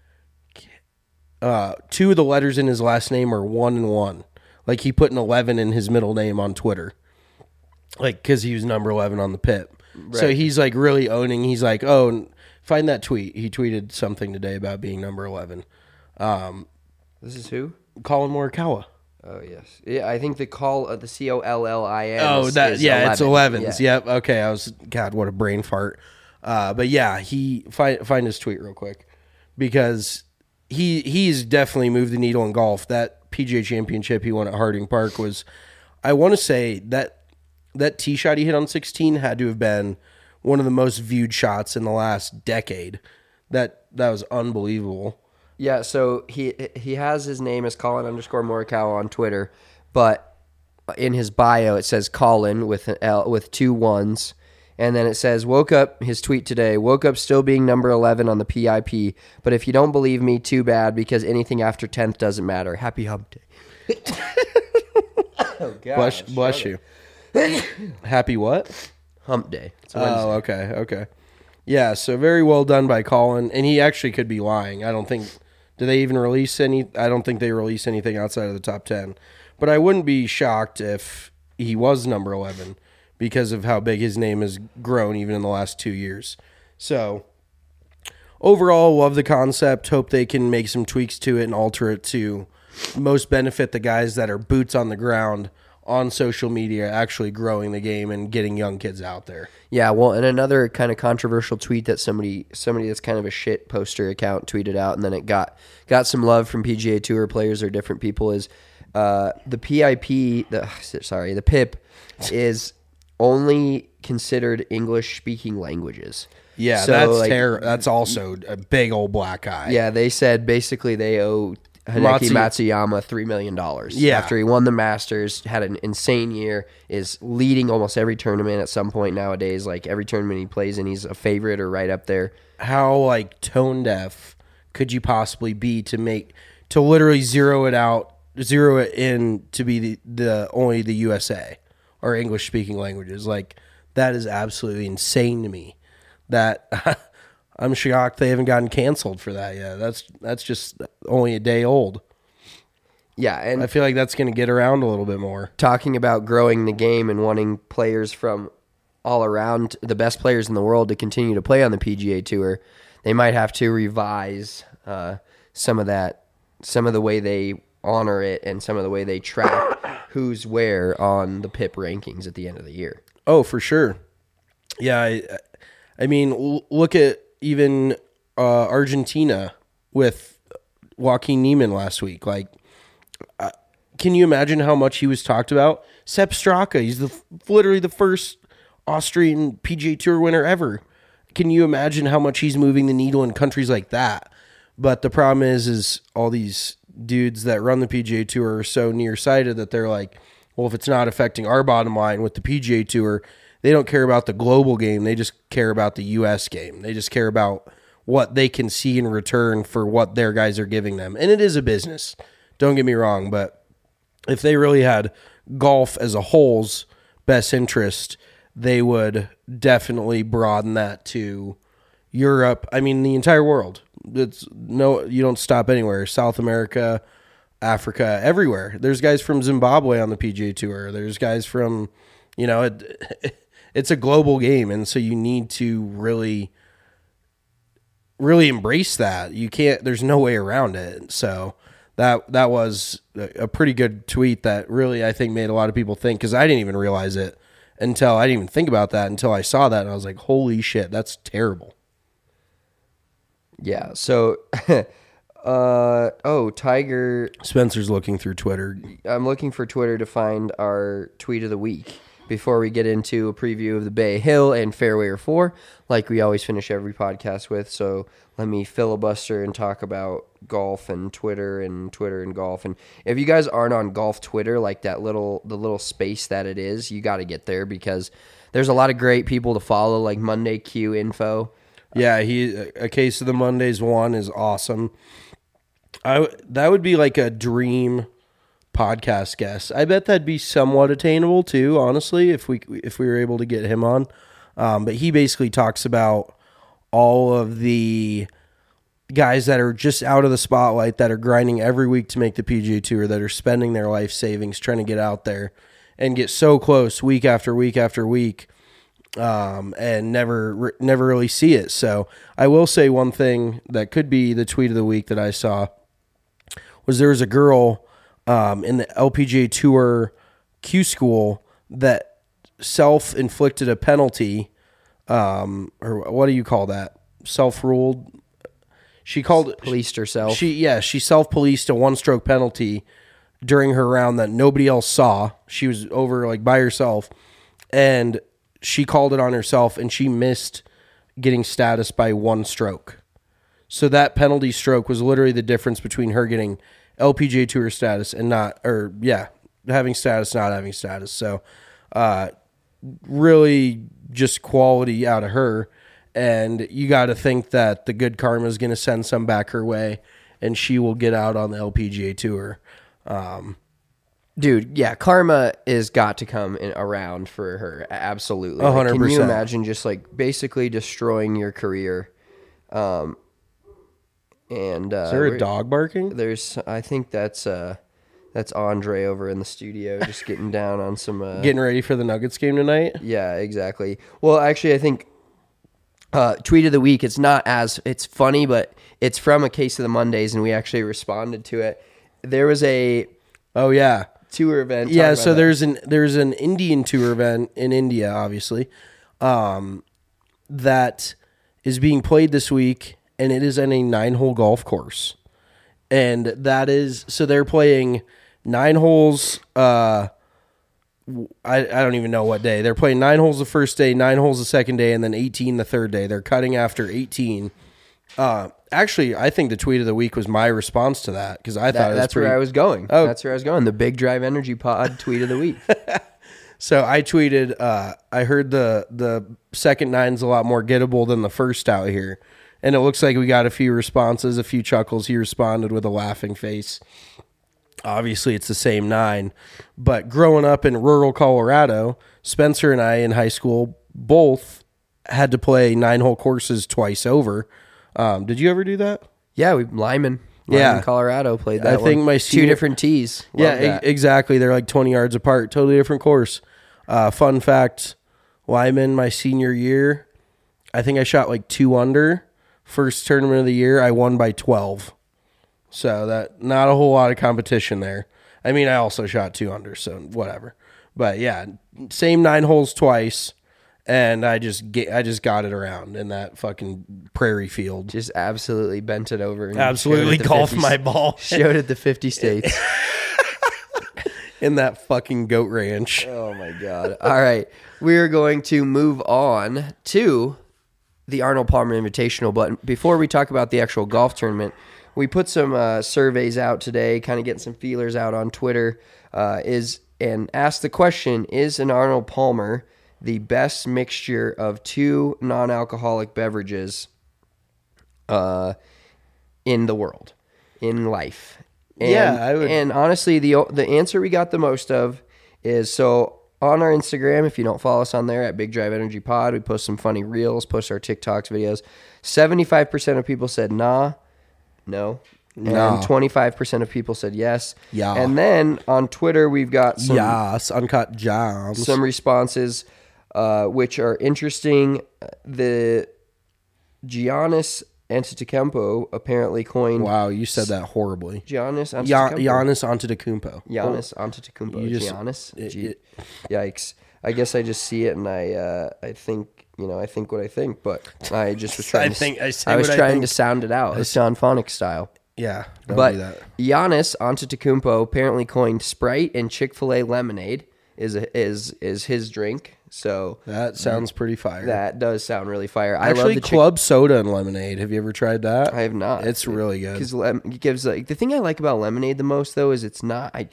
2 of the letters in his last name are 1 and 1. Like he put an 11 in his middle name on Twitter, like because he was number 11 on the Pip. Right. So he's like really owning. He's like, oh, find that tweet. He tweeted something today about being number 11. This is who? Colin Morikawa. Oh yes, yeah. I think the COLLIN. Oh, that is 11. It's 11s. Yeah. Yep. Okay. God, what a brain fart. But yeah, he find his tweet real quick because he's definitely moved the needle in golf. That PGA Championship he won at Harding Park was, I want to say that tee shot he hit on 16 had to have been one of the most viewed shots in the last decade. That was unbelievable. Yeah, so he has his name as Colin_Morikawa on Twitter, but in his bio it says Colin with an L with 2 1s, and then it says his tweet today, woke up still being number 11 on the PIP, but if you don't believe me, too bad, because anything after 10th doesn't matter. Happy hump day. Oh God. Bless you. Happy what? Hump day. Oh, okay. Yeah, so very well done by Colin, and he actually could be lying. I don't think... Do they even release any? I don't think they release anything outside of the top 10. But I wouldn't be shocked if he was number 11 because of how big his name has grown even in the last 2 years. So overall, love the concept. Hope they can make some tweaks to it and alter it to most benefit the guys that are boots on the ground on social media, actually growing the game and getting young kids out there. Yeah, well, and another kind of controversial tweet that somebody that's kind of a shit poster account tweeted out, and then it got some love from PGA Tour players or different people, is the PIP is only considered English-speaking languages. Yeah, so that's also a big old black eye. Yeah, they said basically they owe Hideki Matsuyama $3 million. Yeah. After he won the Masters, had an insane year, is leading almost every tournament at some point nowadays. Like every tournament he plays in, he's a favorite or right up there. How like tone deaf could you possibly be to literally zero it in to be the only the USA or English speaking languages? Like that is absolutely insane to me. That I'm shocked they haven't gotten canceled for that yet. That's just only a day old. Yeah, and I feel like that's going to get around a little bit more. Talking about growing the game and wanting players from all around, the best players in the world, to continue to play on the PGA Tour, they might have to revise some of the way they honor it and some of the way they track who's where on the PIP rankings at the end of the year. Oh, for sure. Yeah, I mean, look at even Argentina with Joaquin Niemann last week. Like, can you imagine how much he was talked about? Sepp Straka, he's literally the first Austrian PGA Tour winner ever. Can you imagine how much he's moving the needle in countries like that? But the problem is all these dudes that run the PGA Tour are so nearsighted that they're like, well, if it's not affecting our bottom line with the PGA Tour, they don't care about the global game. They just care about the U.S. game. They just care about what they can see in return for what their guys are giving them. And it is a business. Don't get me wrong, but if they really had golf as a whole's best interest, they would definitely broaden that to Europe. I mean, the entire world. You don't stop anywhere. South America, Africa, everywhere. There's guys from Zimbabwe on the PGA Tour. There's guys from, it's a global game, and so you need to really, really embrace that. You can't. There's no way around it. So that was a pretty good tweet that really I think made a lot of people think, because I didn't even realize it until I didn't even think about that until I saw that, and I was like, holy shit, that's terrible. Yeah. So, Tiger. Spencer's looking through Twitter. I'm looking for Twitter to find our tweet of the week before we get into a preview of the Bay Hill and Fairway 4, like we always finish every podcast with. So let me filibuster and talk about golf and Twitter and golf. And if you guys aren't on golf Twitter, like the little space that it is, you got to get there, because there's a lot of great people to follow, like Monday Q Info. Yeah, a case of the Mondays one is awesome. That would be like a dream podcast guest. I bet that'd be somewhat attainable too, honestly, if we were able to get him on. But he basically talks about all of the guys that are just out of the spotlight, that are grinding every week to make the PGA Tour, that are spending their life savings trying to get out there and get so close week after week after week, and never really see it. So I will say one thing that could be the tweet of the week that I saw was there was a girl in the LPGA Tour Q School that self-inflicted a penalty, or what do you call that? Self-ruled. She policed herself. She self-policed a one-stroke penalty during her round that nobody else saw. She was over like by herself, and she called it on herself, and she missed getting status by one stroke. So that penalty stroke was literally the difference between her getting LPGA Tour status and having status, not having status. So really just quality out of her. And you got to think that the good karma is going to send some back her way, and she will get out on the LPGA Tour. Dude, yeah, karma is got to come around for her. Absolutely. 100%. Can you imagine just like basically destroying your career? Is there a dog barking? I think that's Andre over in the studio just getting down on some getting ready for the Nuggets game tonight. Yeah, exactly. Well, actually, I think tweet of the week. It's funny, but it's from a Case of the Mondays, and we actually responded to it. There was a tour event. Yeah, so there's an Indian tour event in India, obviously, that is being played this week, and it is in a 9-hole golf course, and they're playing 9 holes. I don't even know what day. They're playing 9 holes the first day, 9 holes the second day, and then 18 the third day. They're cutting after 18. Actually, I think the tweet of the week was my response to that, because I thought that's where I was going. Oh. That's where I was going. The Big Drive Energy Pod tweet of the week. So I tweeted, I heard the second 9's a lot more gettable than the first out here. And it looks like we got a few responses, a few chuckles. He responded with a laughing face. Obviously, it's the same 9. But growing up in rural Colorado, Spencer and I in high school both had to play 9-hole courses twice over. Did you ever do that? Yeah, Lyman, Colorado played that. I think my two different tees. Exactly. They're like 20 yards apart. Totally different course. Fun fact: Lyman, my senior year, I think I shot like 2 under. First tournament of the year, I won by 12. So that not a whole lot of competition there. I mean, I also shot 2 under, so whatever. But yeah, same 9 holes twice. And I just got it around in that fucking prairie field. Just absolutely bent it over. And absolutely golfed my ball. Showed it the 50 states. In that fucking goat ranch. Oh, my God. All right. We're going to move on to the Arnold Palmer Invitational. But before we talk about the actual golf tournament, we put some surveys out today, kind of getting some feelers out on Twitter, and asked the question, is an Arnold Palmer the best mixture of 2 non-alcoholic beverages in the world, in life? And, I would. And honestly, the answer we got the most of is, so on our Instagram, if you don't follow us on there at Big Drive Energy Pod, we post some funny reels, post our TikToks, videos. 75% of people said no. And 25% of people said yes. Yeah. And then on Twitter, we've got some Uncut Jams. Some responses, which are interesting. The Giannis Antetokounmpo apparently coined. Wow, you said that horribly. Giannis Antetokounmpo. Giannis Antetokounmpo. Yikes! I guess I just see it and I think what I think, but I just was trying. I was trying to sound it out, Sean Phonics style. Yeah, but do that. Giannis Antetokounmpo apparently coined Sprite and Chick-fil-A lemonade is his drink. So that sounds pretty fire. That does sound really fire. Actually, I love the club soda and lemonade. Have you ever tried that? I have not. It's really good. Because it gives the thing I like about lemonade the most though is it's not. I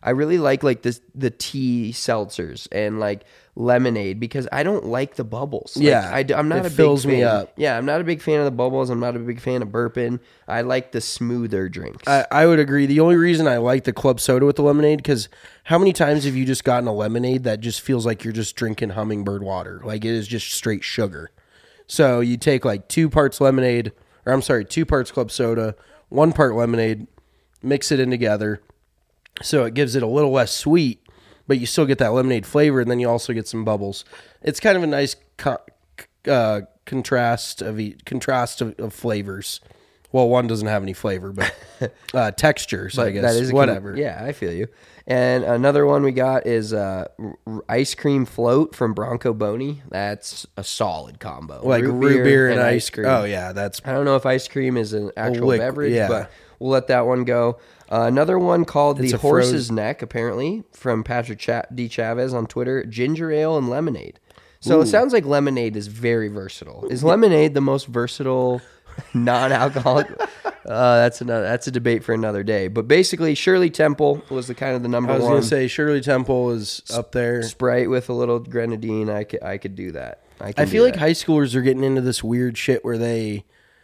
I really like the tea seltzers and like lemonade because I don't like the bubbles. Yeah, I'm not it a fills big fan. me up. Yeah, I'm not a big fan of the bubbles. I'm not a big fan of burping. I like the smoother drinks. I would agree. The only reason I like the club soda with the lemonade, because how many times have you just gotten a lemonade that just feels like you're just drinking hummingbird water? Like it is just straight sugar. So you take like 2 parts lemonade, or I'm sorry, 2 parts club soda, 1 part lemonade, mix it in together. So it gives it a little less sweet, but you still get that lemonade flavor, and then you also get some bubbles. It's kind of a nice contrast of flavors. Well, one doesn't have any flavor, but textures, I guess. That is whatever. Yeah, I feel you. And another one we got is ice cream float from Bronco Boney. That's a solid combo. Like root beer and ice cream. Oh, yeah. I don't know if ice cream is an actual beverage, yeah. but we'll let that one go. Another one called It's the a Horse's Neck, apparently, from Patrick D. Chavez on Twitter. Ginger ale and lemonade. So it sounds like lemonade is very versatile. Is lemonade the most versatile non-alcoholic? That's a debate for another day. But basically, Shirley Temple was the number one. I was going to say Shirley Temple is up there. Sprite with a little grenadine. I could do that. I feel like high schoolers are getting into this weird shit where they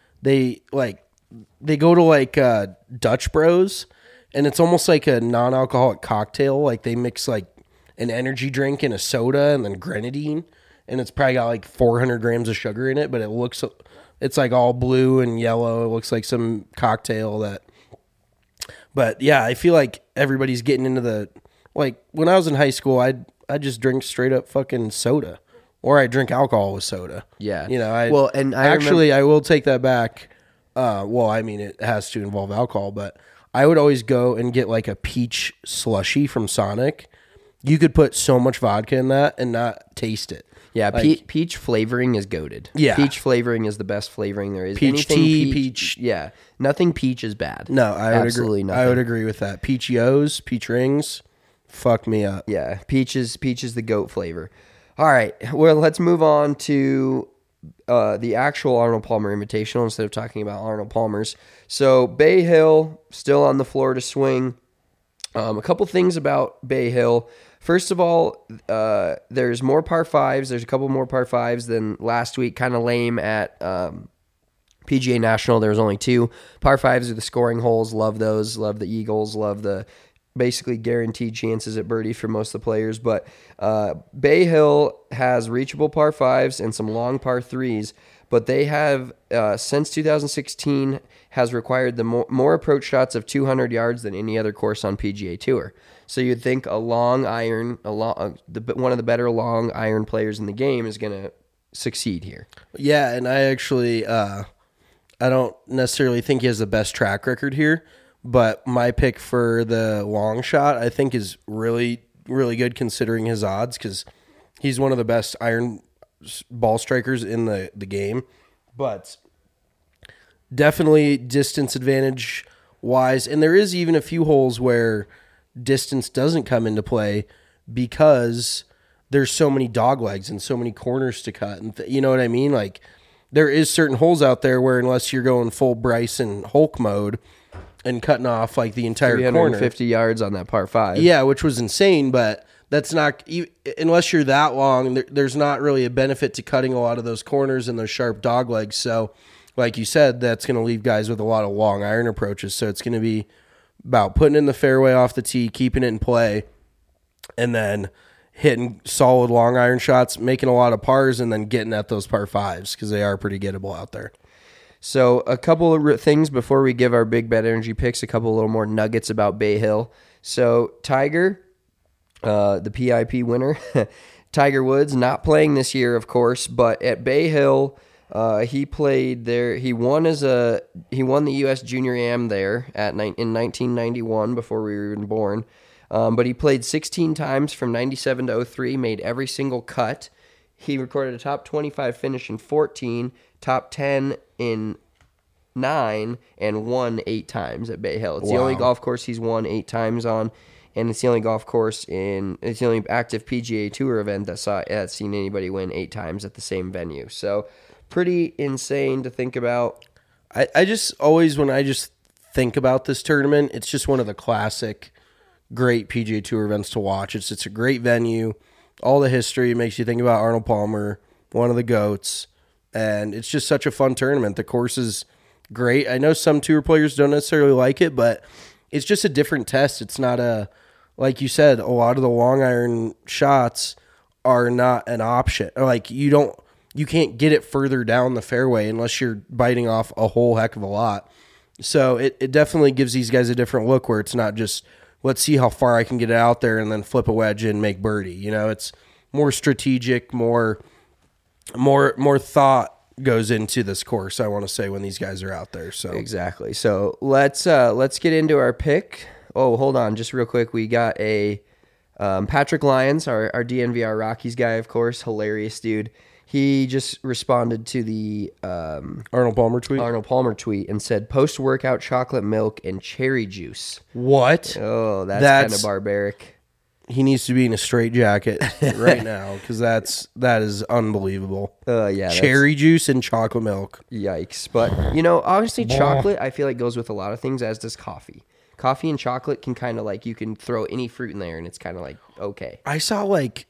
go to like Dutch Bros, and it's almost like a non-alcoholic cocktail. Like they mix like an energy drink and a soda and then grenadine, and it's probably got like 400 grams of sugar in it, but it's like all blue and yellow. It looks like some cocktail but yeah, I feel like everybody's getting into like when I was in high school, I just drink straight up fucking soda, or I drink alcohol with soda. Yeah. I will take that back. Well, I mean, it has to involve alcohol, but I would always go and get like a peach slushy from Sonic. You could put so much vodka in that and not taste it. Yeah, like, peach flavoring is goated. Yeah. Peach flavoring is the best flavoring there is. Peach tea, peach. Yeah, nothing peach is bad. No, I would Absolutely agree. nothing. I would agree with that. Peach-O's, peach rings, fuck me up. Yeah, peach is the goat flavor. All right, well, let's move on to the actual Arnold Palmer Invitational instead of talking about Arnold Palmer's. So Bay Hill still on the Florida swing. A couple things about Bay Hill. First of all, there's more par fives. There's a couple more par fives than last week. Kind of lame at PGA National. There was only 2. Par fives are the scoring holes. Love those. Love the eagles. Love the basically guaranteed chances at birdie for most of the players. But Bay Hill has reachable par fives and some long par threes. But they have, since 2016, has required the more approach shots of 200 yards than any other course on PGA Tour. So you'd think a long iron, one of the better long iron players in the game is going to succeed here. Yeah, and I actually, I don't necessarily think he has the best track record here, but my pick for the long shot I think is really, really good considering his odds, because he's one of the best iron ball strikers in the game. But definitely distance advantage wise, and there is even a few holes where distance doesn't come into play because there's so many dog legs and so many corners to cut, and you know what I mean? Like there is certain holes out there where unless you're going full Bryson Hulk mode and cutting off like the entire 350 yards on that par 5. Yeah, which was insane, but that's not, unless you're that long, there's not really a benefit to cutting a lot of those corners and those sharp dog legs. So like you said, that's going to leave guys with a lot of long iron approaches. So it's going to be about putting in the fairway off the tee, keeping it in play, and then hitting solid long iron shots, making a lot of pars, and then getting at those par 5s because they are pretty gettable out there. So a couple of things before we give our big bet energy picks, a couple little more nuggets about Bay Hill. So Tiger, the PIP winner, Tiger Woods, not playing this year, of course, but at Bay Hill, he played there. He won the U.S. Junior Am there in 1991 before we were even born. But he played 16 times from 97 to 03, made every single cut. He recorded a top 25 finish in 14, top 10 in 9, and won 8 times at Bay Hill. It's the only golf course he's won 8 times on, and it's the only golf course it's the only active PGA Tour event that's seen anybody win 8 times at the same venue. So pretty insane to think about. I just always, when I just think about this tournament, it's just one of the classic great PGA Tour events to watch. It's a great venue. All the history makes you think about Arnold Palmer, one of the GOATs, and it's just such a fun tournament. The course is great. I know some tour players don't necessarily like it, but it's just a different test. It's not like you said, a lot of the long iron shots are not an option. Like you can't get it further down the fairway unless you're biting off a whole heck of a lot. So it definitely gives these guys a different look where it's not just, let's see how far I can get it out there and then flip a wedge and make birdie. You know, it's more strategic, more thought goes into this course, I want to say, when these guys are out there. So exactly. So let's get into our pick. Oh, hold on, just real quick. We got a Patrick Lyons, our DNVR Rockies guy, of course, hilarious dude. He just responded to the Arnold Palmer tweet and said, post-workout chocolate milk and cherry juice. What? Oh, that's kind of barbaric. He needs to be in a straitjacket right now because that is unbelievable. Yeah, cherry juice and chocolate milk. Yikes. But, obviously chocolate, I feel like, goes with a lot of things, as does coffee. Coffee and chocolate can kind of like, you can throw any fruit in there and it's kind of like, okay. I saw like...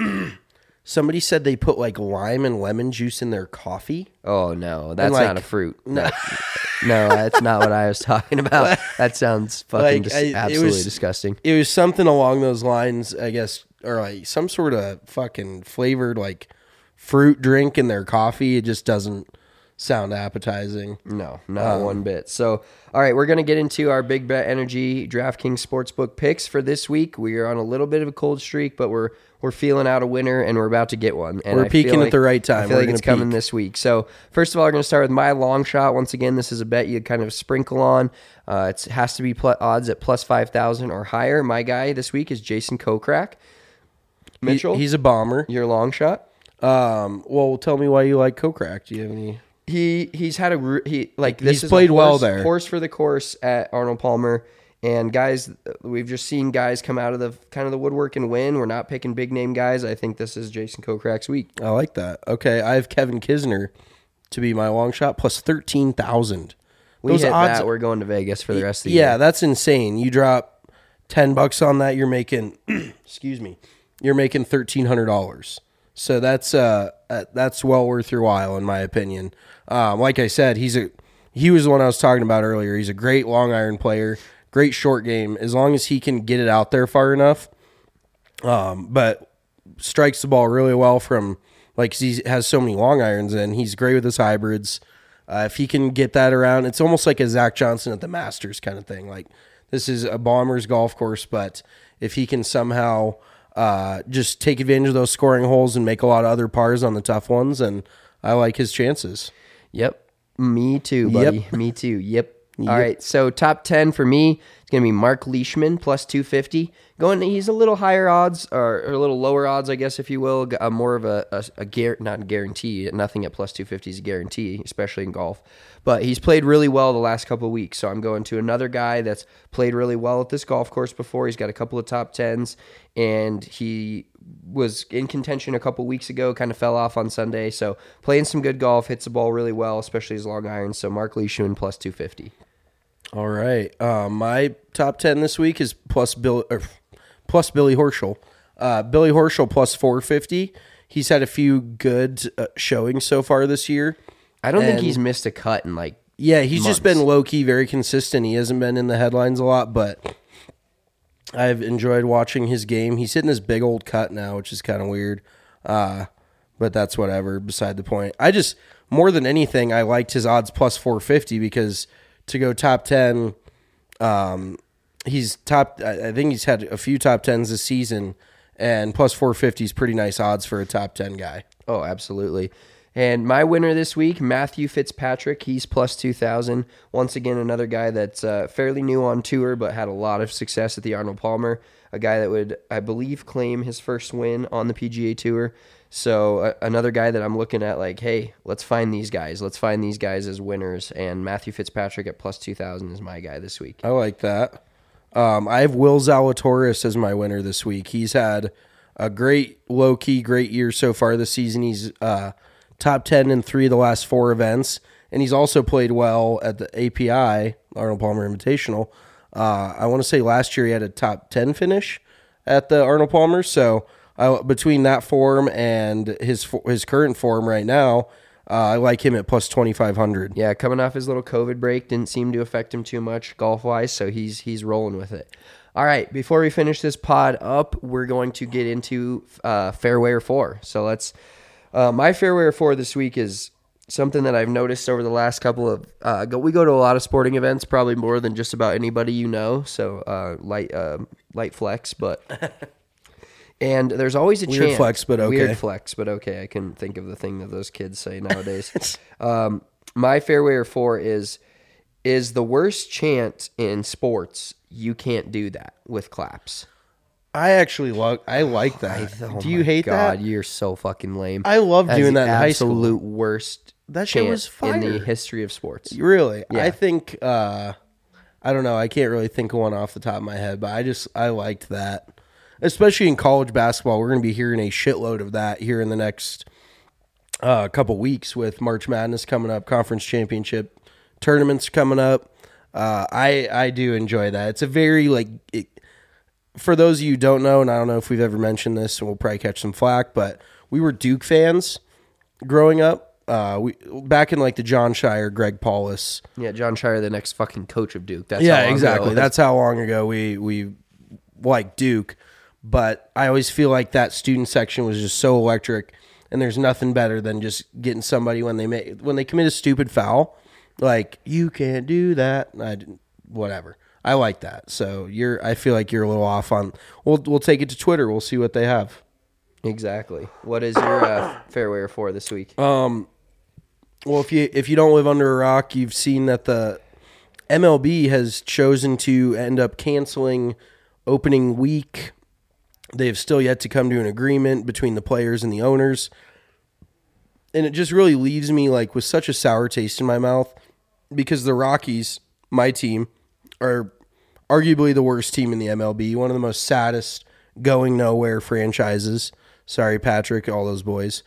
Somebody said they put like lime and lemon juice in their coffee. Oh, no. That's not a fruit. No, that's not what I was talking about. That sounds fucking absolutely disgusting. It was something along those lines, I guess, or like some sort of fucking flavored like fruit drink in their coffee. It just doesn't sound appetizing. No, not one bit. So, all right, we're going to get into our Big Bet Energy DraftKings Sportsbook picks for this week. We are on a little bit of a cold streak, but we're feeling out a winner, and we're about to get one. And we're peaking at the right time. I feel like it's coming this week. So, first of all, we're going to start with my long shot. Once again, this is a bet you kind of sprinkle on. It has to be odds at plus 5,000 or higher. My guy this week is Jason Kokrak. Mitchell, he's a bomber. Your long shot? Well, tell me why you like Kokrak. Do you have any... He's had he's played well there. Horse for the course at Arnold Palmer, and guys, we've just seen guys come out of the kind of the woodwork and win. We're not picking big name guys. I think this is Jason Kokrak's week. I like that. Okay, I have Kevin Kisner to be my long shot plus 13,000. Those odds, we're going to Vegas for the rest of the year. Yeah, that's insane. You drop $10 on that, you're making excuse me, you're making $1,300. So that's well worth your while, in my opinion. Like I said, he was the one I was talking about earlier. He's a great long iron player, great short game, as long as he can get it out there far enough. But strikes the ball really well from, like, he has so many long irons, and he's great with his hybrids. If he can get that around, it's almost like a Zach Johnson at the Masters kind of thing. Like, this is a bomber's golf course, but if he can somehow just take advantage of those scoring holes and make a lot of other pars on the tough ones, and I like his chances. Yep. Me too, buddy. Yep. Me too. Yep. All right. So top 10 for me, it's going to be Mark Leishman plus 250. He's a little higher odds, or a little lower odds, I guess, if you will. More of not a guarantee. Nothing at plus 250 is a guarantee, especially in golf. But he's played really well the last couple of weeks. So I'm going to another guy that's played really well at this golf course before. He's got a couple of top 10s, and he was in contention a couple weeks ago, kind of fell off on Sunday. So playing some good golf, hits the ball really well, especially his long irons. So Mark Leishman plus 250. All right. My top 10 this week is plus Billy Horschel. Billy Horschel plus 450. He's had a few good showings so far this year. I don't think he's missed a cut in he's just been low-key, very consistent. He hasn't been in the headlines a lot, but I've enjoyed watching his game. He's hitting this big old cut now, which is kind of weird. But that's whatever, beside the point. More than anything, I liked his odds plus 450 because to go top 10, I think he's had a few top 10s this season, and plus 450 is pretty nice odds for a top 10 guy. Oh, absolutely. And my winner this week, Matthew Fitzpatrick, he's plus 2,000. Once again, another guy that's fairly new on tour, but had a lot of success at the Arnold Palmer. A guy that would, I believe, claim his first win on the PGA Tour. So another guy that I'm looking at like, hey, let's find these guys. Let's find these guys as winners. And Matthew Fitzpatrick at plus 2,000 is my guy this week. I like that. I have Will Zalatoris as my winner this week. He's had a great, low-key, great year so far this season. He's top 10 in 3 of the last 4 events, and he's also played well at the API, Arnold Palmer Invitational. I want to say last year he had a top 10 finish at the Arnold Palmer. So between that form and his current form right now, I like him at plus 2,500. Yeah, coming off his little COVID break, didn't seem to affect him too much golf-wise, so he's rolling with it. All right, before we finish this pod up, we're going to get into Fairway 4. So let's my Fairway 4 this week is something that I've noticed over the last couple of we go to a lot of sporting events, probably more than just about anybody you know. So light flex, but and there's always a chance. Weird flex, but okay. Weird flex, but okay. I couldn't think of the thing that those kids say nowadays. My Fairway 4 is the worst chant in sports. You can't do that with claps. I actually like that. Do you hate that? God, you're so fucking lame. I love doing that in high school. Absolute worst That shit was fire in the history of sports. Really? Yeah. I think I don't know. I can't really think of one off the top of my head, but I liked that. Especially in college basketball, we're going to be hearing a shitload of that here in the next couple weeks with March Madness coming up, conference championship tournaments coming up. I do enjoy that. It's a very for those of you who don't know, and I don't know if we've ever mentioned this, and we'll probably catch some flack, but we were Duke fans growing up. We back in the John Shire, Greg Paulus. Yeah, John Shire, the next fucking coach of Duke. That's yeah, how long exactly. ago. That's how long ago we liked Duke. But I always feel like that student section was just so electric, and there's nothing better than just getting somebody when they commit a stupid foul, like you can't do that. Whatever. I like that. So I feel like you're a little off on. We'll take it to Twitter. We'll see what they have. Exactly. What is your Fairway 4 this week? Well, if you don't live under a rock, you've seen that the MLB has chosen to end up canceling opening week. They have still yet to come to an agreement between the players and the owners. And it just really leaves me with such a sour taste in my mouth because the Rockies, my team, are arguably the worst team in the MLB, one of the most saddest going nowhere franchises. Sorry, Patrick, all those boys.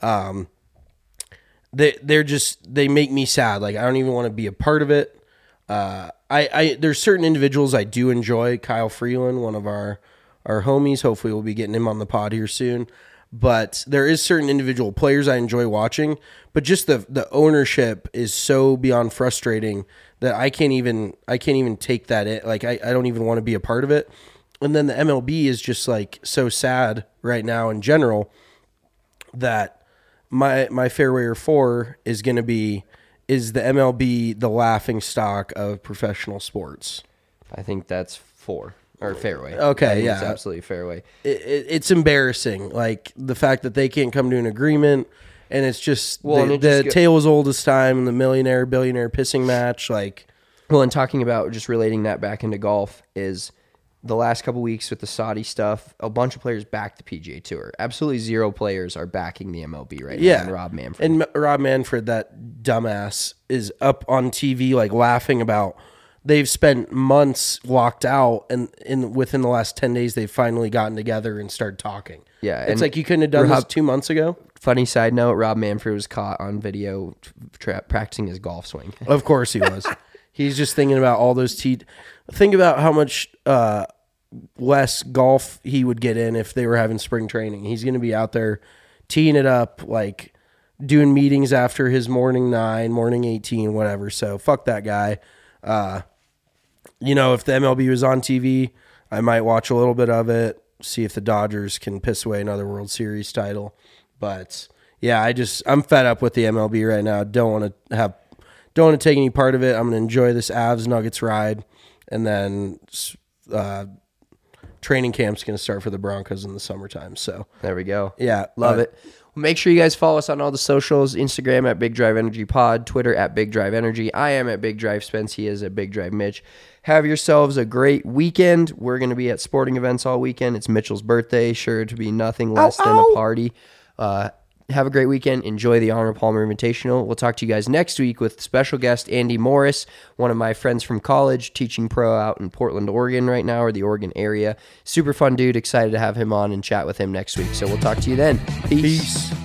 They make me sad. I don't even want to be a part of it. There's certain individuals I do enjoy. Kyle Freeland, one of our homies. Hopefully we'll be getting him on the pod here soon. But there is certain individual players I enjoy watching. But just the ownership is so beyond frustrating that I can't even take that in. I don't even want to be a part of it. And then the MLB is just so sad right now in general that my Fairway 4 is going to be, is the MLB the laughing stock of professional sports? I think that's 4. Or Fairway. Okay, yeah. It's absolutely Fairway. It's embarrassing. The fact that they can't come to an agreement, and it's just the tale as old as time and the millionaire-billionaire pissing match. Well, and talking about just relating that back into golf is the last couple weeks with the Saudi stuff, a bunch of players backed the PGA Tour. Absolutely zero players are backing the MLB right now. And Rob Manfred. And Rob Manfred, that dumbass, is up on TV laughing about they've spent months locked out, and within the last 10 days, they've finally gotten together and started talking. Yeah. It's you couldn't have done this 2 months ago? Funny side note, Rob Manfred was caught on video practicing his golf swing. Of course he was. He's just thinking about all those think about how much less golf he would get in if they were having spring training. He's going to be out there teeing it up, doing meetings after his morning 9, morning 18, whatever. So fuck that guy. If the MLB was on TV, I might watch a little bit of it, see if the Dodgers can piss away another World Series title. But yeah, I'm fed up with the MLB right now. Don't want to take any part of it. I'm going to enjoy this Avs Nuggets ride, and then training camp's going to start for the Broncos in the summertime. So there we go. Yeah, love it. Make sure you guys follow us on all the socials, Instagram at Big Drive Energy Pod, Twitter at Big Drive Energy. I am at Big Drive Spence. He is at Big Drive Mitch. Have yourselves a great weekend. We're going to be at sporting events all weekend. It's Mitchell's birthday. Sure to be nothing less than a party. Have a great weekend. Enjoy the Arnold Palmer Invitational. We'll talk to you guys next week with special guest Andy Morris, one of my friends from college, teaching pro out in Portland, Oregon right now, or the Oregon area. Super fun dude. Excited to have him on and chat with him next week. So we'll talk to you then. Peace.